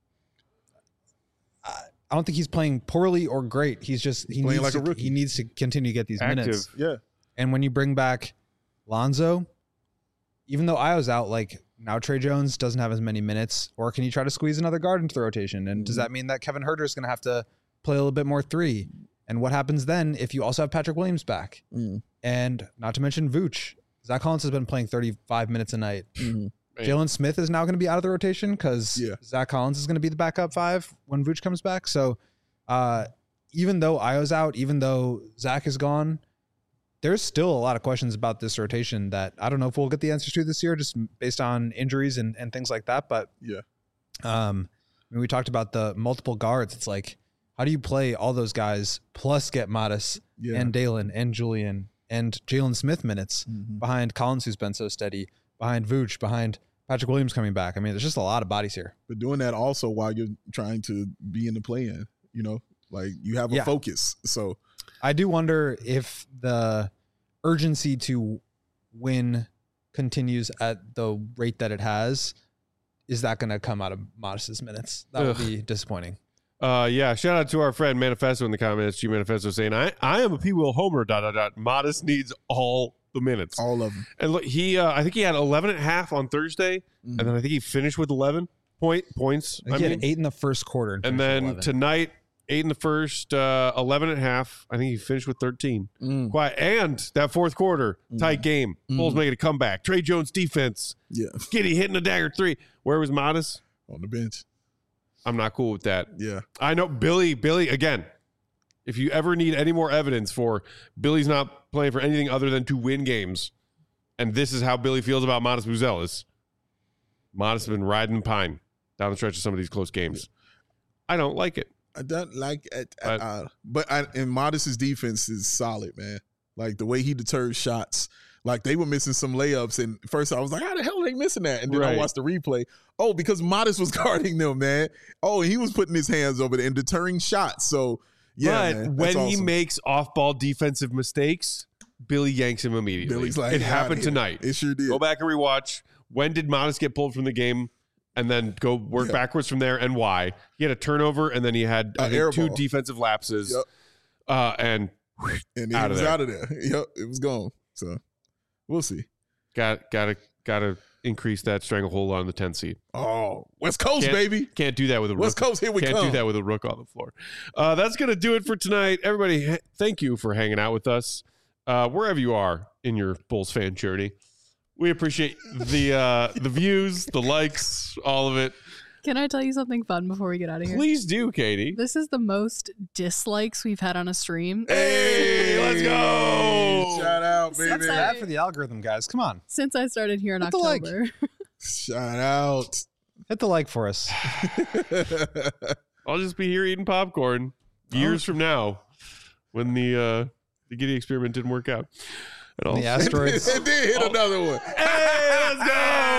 I I don't think he's playing poorly or great. He's just, he Playing needs like a to, rookie. he needs to continue to get these Active. minutes. Yeah. And when you bring back Lonzo, even though I was out, like, now Trey Jones doesn't have as many minutes, or can you try to squeeze another guard into the rotation? And does that mean that Kevin Huerter is going to have to play a little bit more three? And what happens then if you also have Patrick Williams back? Mm. And not to mention Vooch. Zach Collins has been playing thirty-five minutes a night. Mm-hmm. Jalen Smith is now going to be out of the rotation because Yeah. Zach Collins is going to be the backup five when Vooch comes back. So uh, even though Io's out, even though Zach is gone, there's still a lot of questions about this rotation that I don't know if we'll get the answers to this year, just based on injuries and, and things like that. But Yeah. um, I mean, we talked about the multiple guards. It's like, how do you play all those guys plus get Modest Yeah. and Dalen and Julian and Jalen Smith minutes Mhm. behind Collins, who's been so steady, behind Vooch, behind Patrick Williams coming back? I mean, there's just a lot of bodies here. But doing that also while you're trying to be in the play-in, you know, like you have a Yeah. focus. So I do wonder if the urgency to win continues at the rate that it has. Is that going to come out of Modest's minutes? That would Ugh. be disappointing. Uh, yeah, shout out to our friend Manifesto in the comments. G Manifesto saying, I, I am a P. Will Homer, dot, dot, dot. Modest needs all the minutes. all of them. And look, he, uh, I think he had eleven and a half on Thursday, Mhm. and then I think he finished with eleven point points. I think I he mean, had eight in the first quarter. and finished with then eleven. tonight, eight in the first, uh, eleven and a half. I think he finished with thirteen. Mm. Quiet. And that fourth quarter, tight game. Bulls making a comeback. Trey Jones defense. Yeah. Giddy hitting a dagger three. Where was Modest? On the bench. I'm not cool with that. Yeah. I know Billy, Billy, again, If you ever need any more evidence for Billy's not playing for anything other than to win games, and this is how Billy feels about Modest Buzelis, Modest has been riding pine down the stretch of some of these close games. I don't like it. I don't like it But- at all. But I, and Modest's defense is solid, man. Like the way he deters shots. Like they were missing some layups, and first I was like, "How the hell are they missing that?" And then Right. I watched the replay. Oh, because Modest was guarding them, man. Oh, he was putting his hands over there and deterring shots. So yeah, but man, when that's he awesome. makes off-ball defensive mistakes, Billy yanks him immediately. Billy's like, it "Get happened outta here." tonight. It sure did. Go back and rewatch. When did Modest get pulled from the game? And then go work Yeah. backwards from there, and why? He had a turnover, and then he had I A think, air two ball. defensive lapses. Yep. Uh, and and out he of was there. out of there. Yep, it was gone. So we'll see. got gotta gotta increase that stranglehold on the tenth seed. Oh, West Coast, Can't- baby. Can't do that with a rook. West Coast, here we Can't come. do that with a rook on the floor. Uh, that's gonna do it for tonight. Everybody, ha- thank you for hanging out with us uh, wherever you are in your Bulls fan journey. We appreciate the uh, the views, the likes, all of it. Can I tell you something fun before we get out of here? Please do, Katie. This is the most dislikes we've had on a stream. Hey, let's go. Shout out, Since baby. I- Bad for the algorithm, guys. Come on. Since I started here in Hit the like. October. Shout out. Hit the like for us. I'll just be here eating popcorn years from now when the uh, the Giddy experiment didn't work out. At all. When the asteroids It did hit another one. Hey, let's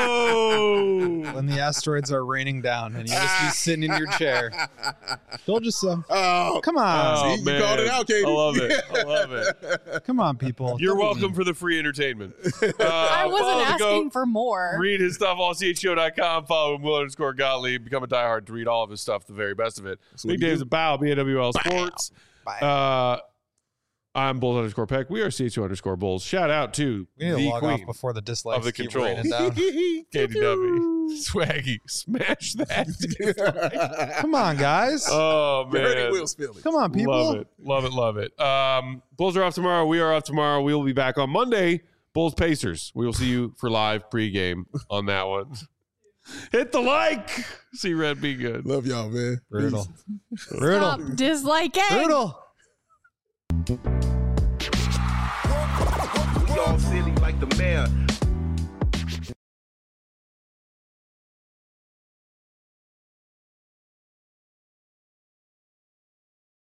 go! when the asteroids are raining down and you just be sitting in your chair. Told you so. Oh, Come on. Oh, See, you man. called it out, Katie. I love it. I love it. Come on, people. You're Don't be welcome mean. for the free entertainment. Uh, I follow wasn't the asking goat. for more. Read his stuff, all C H O dot com. Follow him, Will underscore Gottlieb. Become a diehard to read all of his stuff, the very best of it. That's what Big you Dave's do. a bow, B A W L Sports. Uh, I'm Bulls underscore Peck. We are C H O underscore Bulls. Shout out to We need to the log queen off before the dislikes of the keep control. raining down. Katie W. Swaggy. Smash that. Come on, guys. Oh, You heard man. Will's feelings. Come on, people. Love it. Love it. Love it. Um, Bulls are off tomorrow. We are off tomorrow. We will be back on Monday. Bulls Pacers. We will see you for live pregame on that one. Hit the like. See Red be good. Love y'all, man. Brutal. Brutal. Stop disliking. Brutal. We all silly like the mayor.